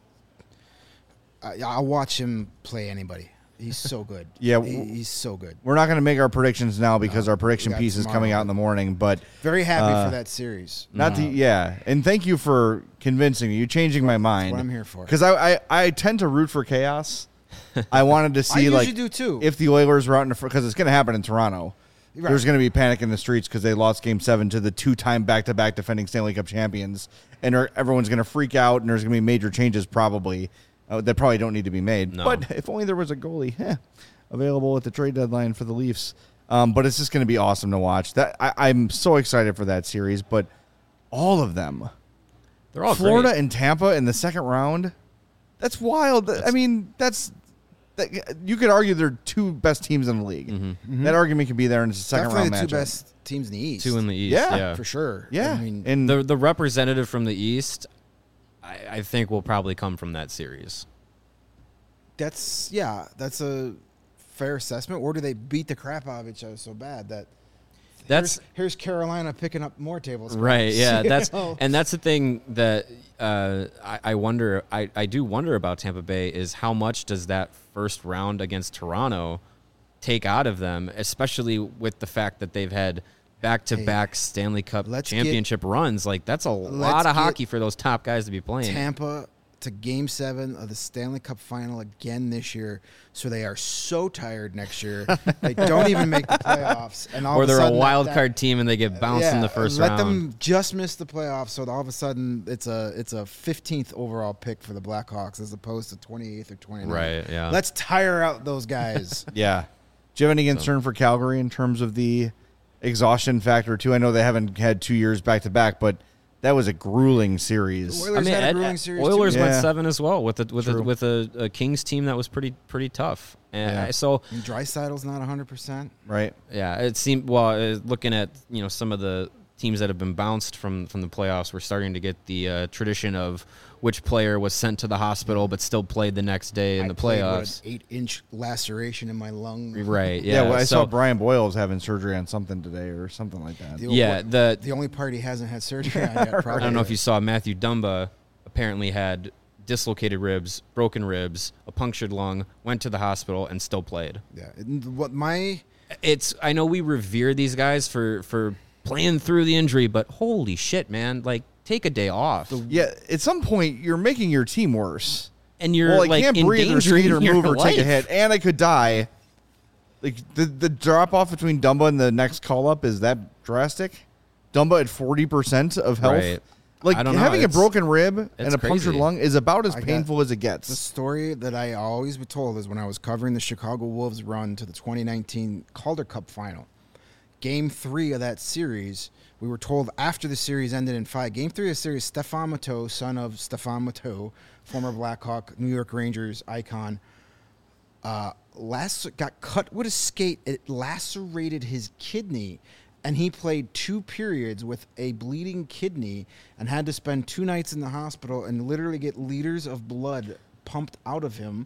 I, I'll watch him play anybody. He's so good. Yeah, He- w- he's so good. We're not going to make our predictions now because No, our prediction we got piece is tomorrow. coming out in the morning. But Very happy Uh, for that series. not the yeah, and thank you for convincing me. You're changing my mind. what I'm here for. Because I, I I tend to root for chaos. I wanted to I see usually like do too. if the Oilers were out in the because it's going to happen in Toronto. Right. There's going to be panic in the streets because they lost Game Seven to the two-time back-to-back defending Stanley Cup champions, and er- everyone's going to freak out, and there's going to be major changes probably. uh, that probably don't need to be made. No. But if only there was a goalie eh, available at the trade deadline for the Leafs. Um, but it's just going to be awesome to watch. That I, I'm so excited for that series. But all of them, They're all Florida great. and Tampa in the second round, that's wild. I That's- mean, that's that, you could argue they're two best teams in the league. Mm-hmm. That argument could be there in the second Definitely round the two matchup. best teams in the East. Two in the East. Yeah, Yeah, for sure. Yeah, I mean, and The the representative from the East, I, I think, will probably come from that series. that's yeah, that's a fair assessment. Or do they beat the crap out of each other so bad that That's here's, here's Carolina picking up more tables? right. Yeah, You that's know? and that's the thing that uh, I, I wonder. I, I do wonder about Tampa Bay is how much does that first round against Toronto take out of them, especially with the fact that they've had back-to-back Stanley Cup let's get- championship runs. Like that's a lot let's of get hockey for those top guys to be playing. Tampa to Game Seven of the Stanley Cup Final again this year, so they are so tired next year they don't even make the playoffs, and all or of a they're a sudden wild that- card team and they get bounced in yeah, the first let round. them just miss the playoffs, so all of a sudden it's a it's a fifteenth overall pick for the Blackhawks as opposed to twenty-eighth or twenty-ninth. Right, yeah. Let's tire out those guys. yeah. Do you have any concern for Calgary in terms of the exhaustion factor too? I know they haven't had two years back to back, but that was a grueling series. Oilers had a Ed- grueling Ed- series Oilers too. went Yeah. seven as well with a with a True. with a, a Kings team that was pretty pretty tough. And Yeah. I- so And Dreisaitl's not one hundred percent. Right. yeah, it seemed well uh, looking at you know some of the teams that have been bounced from from the playoffs. We're starting to get the uh, tradition of which player was sent to the hospital but still played the next day in I the played with playoffs. an eight-inch laceration in my lung. Right. Yeah. Yeah. well, I so, saw Brian Boyles having surgery on something today or something like that. The- Yeah. what- The The only part he hasn't had surgery on yet. Probably. I don't know if you saw Matthew Dumba apparently had dislocated ribs, broken ribs, a punctured lung, went to the hospital and still played. Yeah. And what my It's I know we revere these guys for for playing through the injury, but holy shit, man! Like take a day off, Yeah. At some point, you're making your team worse. and you're well, I like can't breathe or endangering skate or your move or take a life. hit, and I could die. Like the the drop off between Dumba and the next call up is that drastic? Dumba at forty percent of health. Right. Like I don't know, having a it's- broken rib and it's a punctured crazy. lung is about as I got- painful as it The gets. story that I always was told is when I was covering the Chicago Wolves run to the twenty nineteen Calder Cup final. Game three of that series, we were told after the series ended in five. Game three of the series, Stefan Matteau, son of Stefan Matteau, former Blackhawk, New York Rangers icon, uh, lac- got cut with a skate. It lacerated his kidney, and he played two periods with a bleeding kidney and had to spend two nights in the hospital and literally get liters of blood pumped out of him,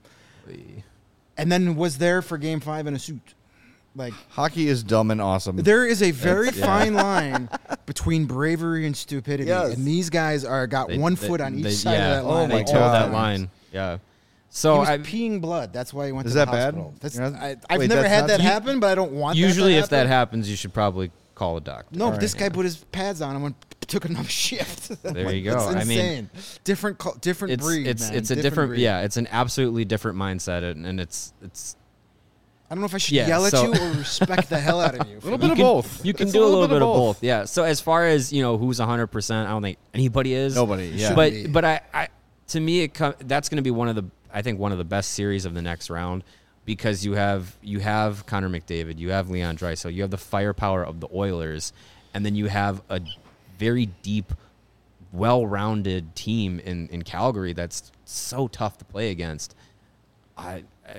and then was there for game five in a suit. Like, Hockey is dumb and awesome. there is a very It's- yeah. fine line between bravery and stupidity, Yes. and these guys are got They- one they- foot on each they- side yeah, of that Oh line. my They at told all that times. line. Yeah. He So was I peeing blood. That's why he went Is to that the bad? hospital. That's, You're not- I, I've wait, never that's had not- that You- happen, but I don't want. usually that to if that happen. happens, you should probably call a doctor. No, All but this right. guy put his pads on and went took another shift. There you That's go. I mean, insane. different, cul- different It's breed. it's man. it's a different, breed. yeah. It's an absolutely different mindset, and, and it's it's I don't know if I should Yeah, yell at so- you or respect the hell out of you. A little for bit that. of can- both. You can It's do a little, bit, of both. Yeah. So as far as you know, who's one hundred percent, I don't think anybody is. Nobody, yeah. Should But be. but I, I to me it com- that's going to be one of the I think one of the best series of the next round because you have you have Connor McDavid, you have Leon Draisaitl, you have the firepower of the Oilers, and then you have a very deep, well-rounded team in in Calgary that's so tough to play against. I. I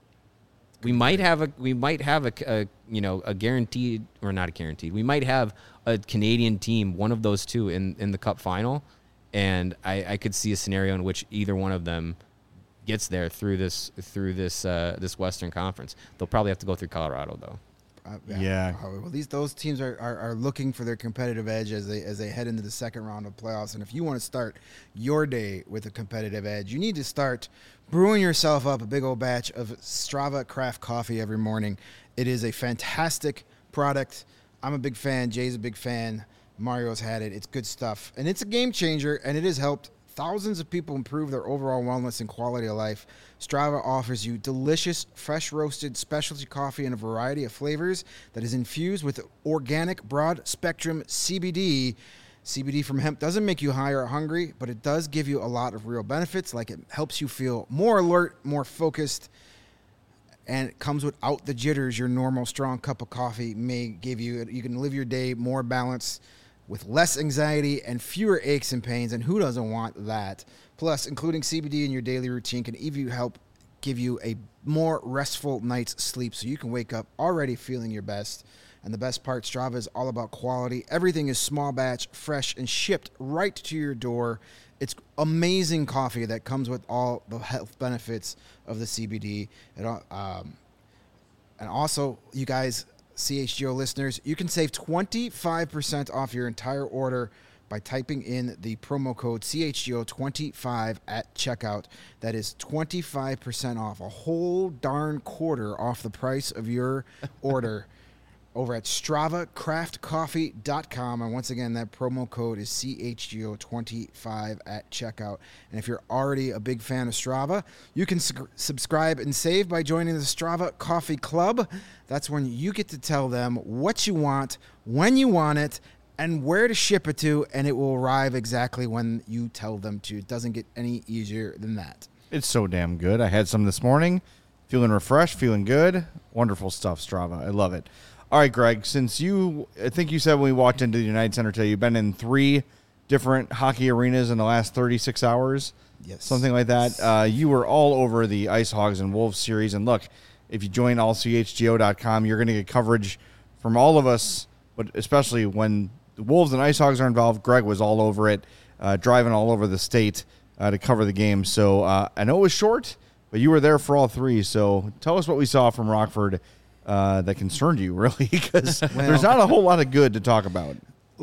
we might have a we might have a, a you know a guaranteed or not a guaranteed we might have a Canadian team, one of those two in, in the Cup final, and I, I could see a scenario in which either one of them gets there through this through this uh, this Western Conference. They'll probably have to go through Colorado though. Uh, Yeah. Uh, well, these those teams are, are, are looking for their competitive edge as they as they head into the second round of playoffs. And if you want to start your day with a competitive edge, you need to start brewing yourself up a big old batch of Strava craft coffee every morning. It is a fantastic product. I'm a big fan. Jay's a big fan. Mario's had it. It's good stuff, and it's a game changer. And it has helped thousands of people improve their overall wellness and quality of life. Strava offers you delicious, fresh roasted specialty coffee in a variety of flavors that is infused with organic broad spectrum C B D. C B D from hemp doesn't make you high or hungry, but it does give you a lot of real benefits. Like it helps you feel more alert, more focused, and it comes without the jitters your normal strong cup of coffee may give you. You can live your day more balanced with less anxiety and fewer aches and pains, and who doesn't want that? Plus, including C B D in your daily routine can even help give you a more restful night's sleep so you can wake up already feeling your best. And the best part, Strava is all about quality. Everything is small batch, fresh, and shipped right to your door. It's amazing coffee that comes with all the health benefits of the C B D. It, um, and also, you guys, C H G O listeners, you can save twenty-five percent off your entire order by typing in the promo code C H G O twenty-five at checkout. That is twenty-five percent off, a whole darn quarter off the price of your order. Over at Strava Craft Coffee dot com. And once again, that promo code is C H G O twenty-five at checkout. And if you're already a big fan of Strava, you can su- subscribe and save by joining the Strava Coffee Club. That's when you get to tell them what you want, when you want it, and where to ship it to, and it will arrive exactly when you tell them to. It doesn't get any easier than that. It's so damn good. I had some this morning. Feeling refreshed, feeling good. Wonderful stuff, Strava. I love it. All right, Greg, since you, I think you said when we walked into the United Center today, you've been in three different hockey arenas in the last thirty-six hours. Yes. Something like that. Uh, you were all over the Ice Hogs and Wolves series. And look, if you join all C H G O dot com, you're going to get coverage from all of us, but especially when the Wolves and Ice Hogs are involved. Greg was all over it, uh, driving all over the state uh, to cover the game. So uh, I know it was short, but you were there for all three. So tell us what we saw from Rockford Uh, that concerned you, really, because well, there's not a whole lot of good to talk about.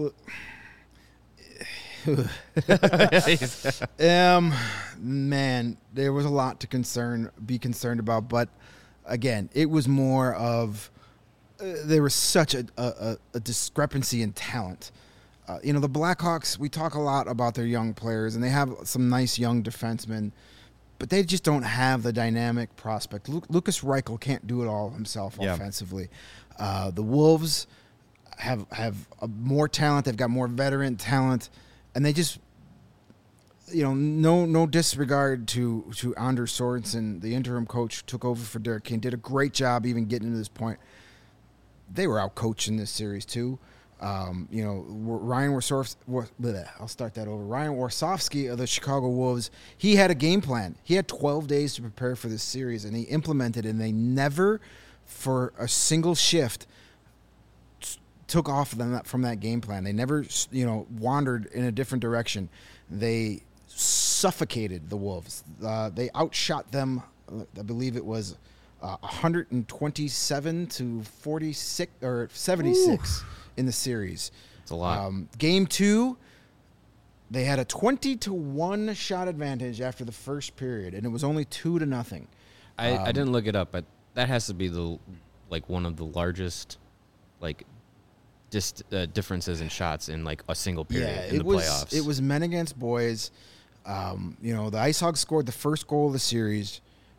um, man, there was a lot to concern, be concerned about, but again, it was more of uh, there was such a, a, a discrepancy in talent. Uh, you know, the Blackhawks, we talk a lot about their young players, and they have some nice young defensemen, but they just don't have the dynamic prospect. Lu- Lucas Reichel can't do it all himself yeah. offensively. Uh, the Wolves have have a more talent. They've got more veteran talent, and they just, you know, no no disregard to to Anders Sorensen, the interim coach, took over for Derek King, did a great job even getting to this point. They were out coaching this series too. Um, you know, Ryan Warsofsky, I'll start that over. Ryan Warsofsky of the Chicago Wolves, he had a game plan. He had twelve days to prepare for this series, and he implemented it, and they never, for a single shift, t- took off them from that game plan. They never, you know, wandered in a different direction. They suffocated the Wolves. Uh, they outshot them, I believe it was uh, one twenty-seven to forty-six or seventy-six. Ooh. In the series. It's a lot. Um, game two, they had a twenty to one shot advantage after the first period, and it was only two to nothing. I, um, I didn't look it up, but that has to be the like one of the largest like dist, uh, differences in shots in like a single period yeah, in it the was, playoffs. It was men against boys. Um, you know, the Ice Hogs scored the first goal of the series.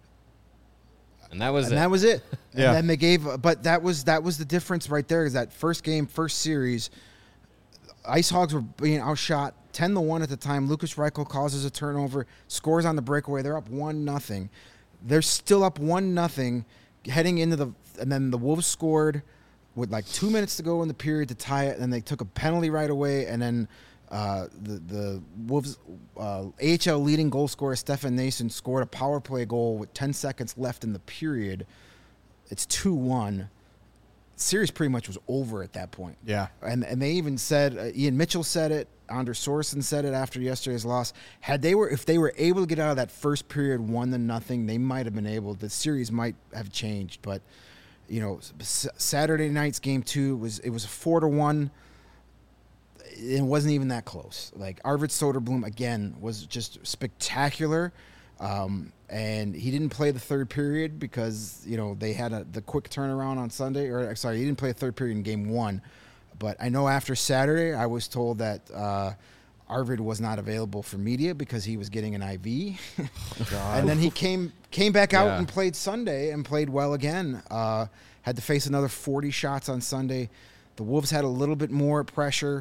And that was and it. that was it. Yeah. And then they gave, but that was that was the difference right there. Is that first game, first series, Ice Hogs were being outshot ten to one at the time. Lucas Reichel causes a turnover, scores on the breakaway. They're up one nothing. They're still up one nothing, heading into the, and then the Wolves scored with like two minutes to go in the period to tie it. And then they took a penalty right away, and then. Uh, the the Wolves uh, A H L leading goal scorer Stefan Nason scored a power play goal with ten seconds left in the period. It's two one. Series pretty much was over at that point. Yeah. And and they even said, uh, Ian Mitchell said it, Anders Sorensen said it after yesterday's loss. Had they were if they were able to get out of that first period one to nothing, they might have been able. The series might have changed, but you know, s- Saturday night's game two was it was a four to one. It wasn't even that close. Like Arvid Soderblom again was just spectacular, um, and he didn't play the third period because you know they had a, the quick turnaround on Sunday. Or sorry, he didn't play the third period in game one. But I know after Saturday, I was told that uh, Arvid was not available for media because he was getting an I V, oh, and then he came came back out yeah. and played Sunday and played well again. Uh, had to face another forty shots on Sunday. The Wolves had a little bit more pressure.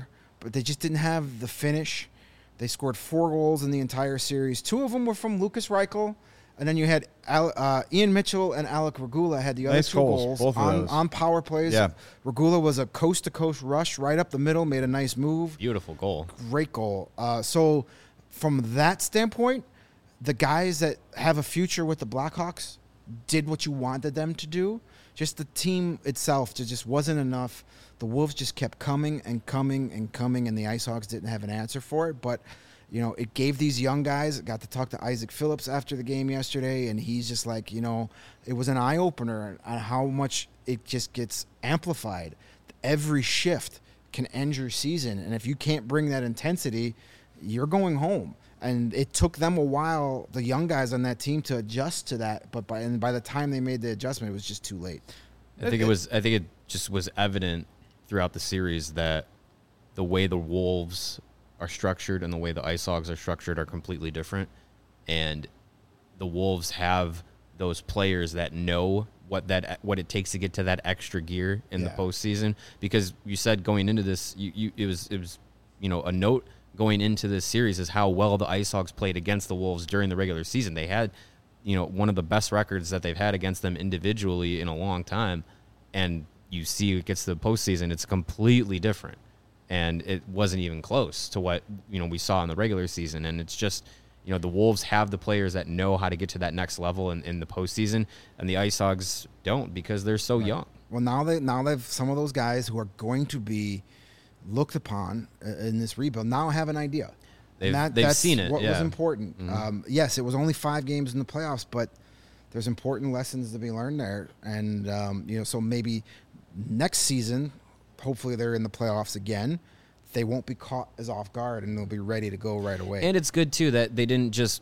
but they just didn't have the finish. They scored four goals in the entire series. Two of them were from Lucas Reichel, and then you had Al, uh, Ian Mitchell and Alec Regula had the other Nice two goals, goals both of on, those. on power plays. Yeah. Regula was a coast-to-coast rush right up the middle, made a nice move. Beautiful goal. Great goal. Uh, so from that standpoint, the guys that have a future with the Blackhawks did what you wanted them to do. Just the team itself just wasn't enough. The Wolves just kept coming and coming and coming, and the Ice Hawks didn't have an answer for it. But, you know, it gave these young guys, got to talk to Isaac Phillips after the game yesterday, and he's just like, you know, it was an eye-opener on how much it just gets amplified. Every shift can end your season, and if you can't bring that intensity, you're going home. And it took them a while, the young guys on that team, to adjust to that. But by and by the time they made the adjustment, it was just too late. I think it was. I think it just was evident throughout the series that the way the Wolves are structured and the way the Ice Hogs are structured are completely different. And the Wolves have those players that know what that what it takes to get to that extra gear in Yeah. the postseason. Because you said going into this, you, you it was it was you know a note. Going into this series is how well the Ice Hogs played against the Wolves during the regular season. They had, you know, one of the best records that they've had against them individually in a long time. And you see it gets to the postseason, it's completely different. And it wasn't even close to what, you know, we saw in the regular season. And it's just, you know, the Wolves have the players that know how to get to that next level in, in the postseason. And the Ice Hogs don't because they're so Right. young. Well, now they now they've some of those guys who are going to be looked upon uh, in this rebuild now have an idea. They've- And they've that's seen it, What was yeah. important. Mhm. Um, yes, it was only five games in the playoffs, but there's important lessons to be learned there. And um, you know, so maybe next season, hopefully they're in the playoffs again. They won't be caught as off guard, and they'll be ready to go right away. And it's good too that they didn't just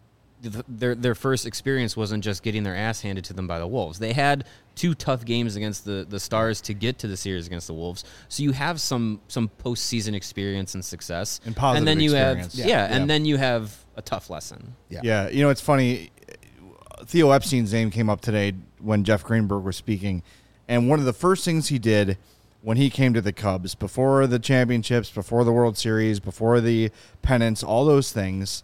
th- their their first experience wasn't just getting their ass handed to them by the Wolves. They had two tough games against the, the Stars to get to the series against the Wolves. So you have some some postseason experience and success, And positive then you experience. have Yeah. yeah, Yeah. and then you have a tough lesson. yeah. Yeah, you know, it's funny. Theo Epstein's name came up today when Jeff Greenberg was speaking. And one of the first things he did when he came to the Cubs, before the championships, before the World Series, before the pennants, all those things,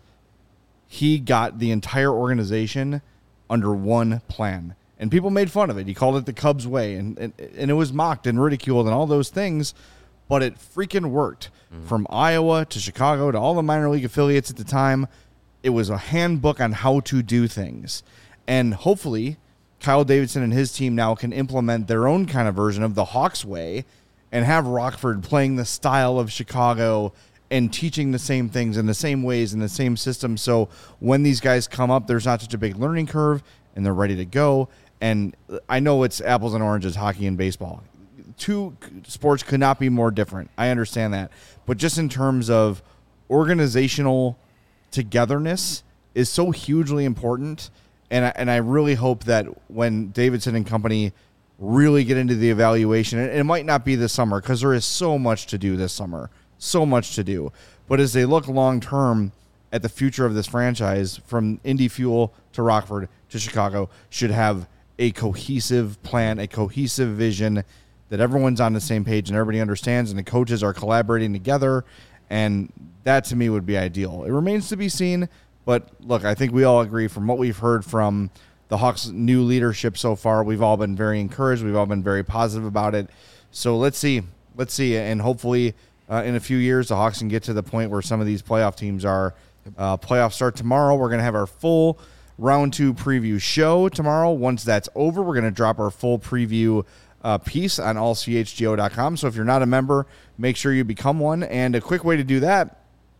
he got the entire organization under one plan. And people made fun of it. He called it the Cubs way. And, and, and it was mocked and ridiculed and all those things. But it freaking worked. Mm-hmm. From Iowa to Chicago to all the minor league affiliates at the time, it was a handbook on how to do things. And hopefully, Kyle Davidson and his team now can implement their own kind of version of the Hawks way and have Rockford playing the style of Chicago and teaching the same things in the same ways in the same system. So when these guys come up, there's not such a big learning curve and they're ready to go. And I know it's apples and oranges, hockey and baseball. Two sports could not be more different. I understand that. But just in terms of organizational togetherness is so hugely important. And I, and I really hope that when Davidson and company really get into the evaluation, and it might not be this summer because there is so much to do this summer, so much to do. But as they look long term at the future of this franchise, from Indy Fuel to Rockford to Chicago, should have a cohesive plan, a cohesive vision that everyone's on the same page and everybody understands, and the coaches are collaborating together. And that to me would be ideal. It remains to be seen. But look, I think we all agree from what we've heard from the Hawks' new leadership so far, we've all been very encouraged. We've all been very positive about it. So let's see. Let's see. And hopefully uh, in a few years, the Hawks can get to the point where some of these playoff teams are. Uh, playoffs start tomorrow. We're going to have our full round two preview show tomorrow. Once that's over, we're going to drop our full preview uh, piece on all c h g o dot com. So if you're not a member, make sure you become one. And a quick way to do that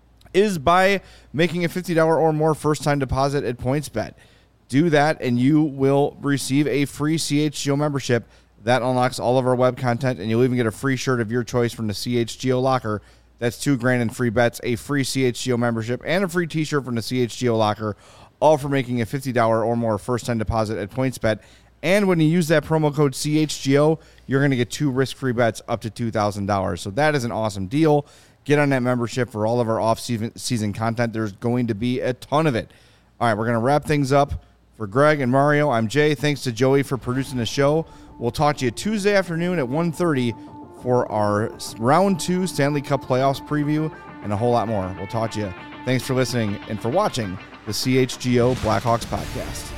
is by making a fifty dollars or more first-time deposit at PointsBet. Do that, and you will receive a free C H G O membership. That unlocks all of our web content, and you'll even get a free shirt of your choice from the C H G O Locker. That's two grand in free bets, a free C H G O membership, and a free T-shirt from the C H G O Locker, all for making a fifty dollars or more first-time deposit at PointsBet. And when you use that promo code C H G O, you're going to get two risk-free bets up to two thousand dollars. So that is an awesome deal. Get on that membership for all of our off-season content. There's going to be a ton of it. All right, we're going to wrap things up. For Greg and Mario, I'm Jay. Thanks to Joey for producing the show. We'll talk to you Tuesday afternoon at one thirty for our round two Stanley Cup playoffs preview and a whole lot more. We'll talk to you. Thanks for listening and for watching the C H G O Blackhawks podcast.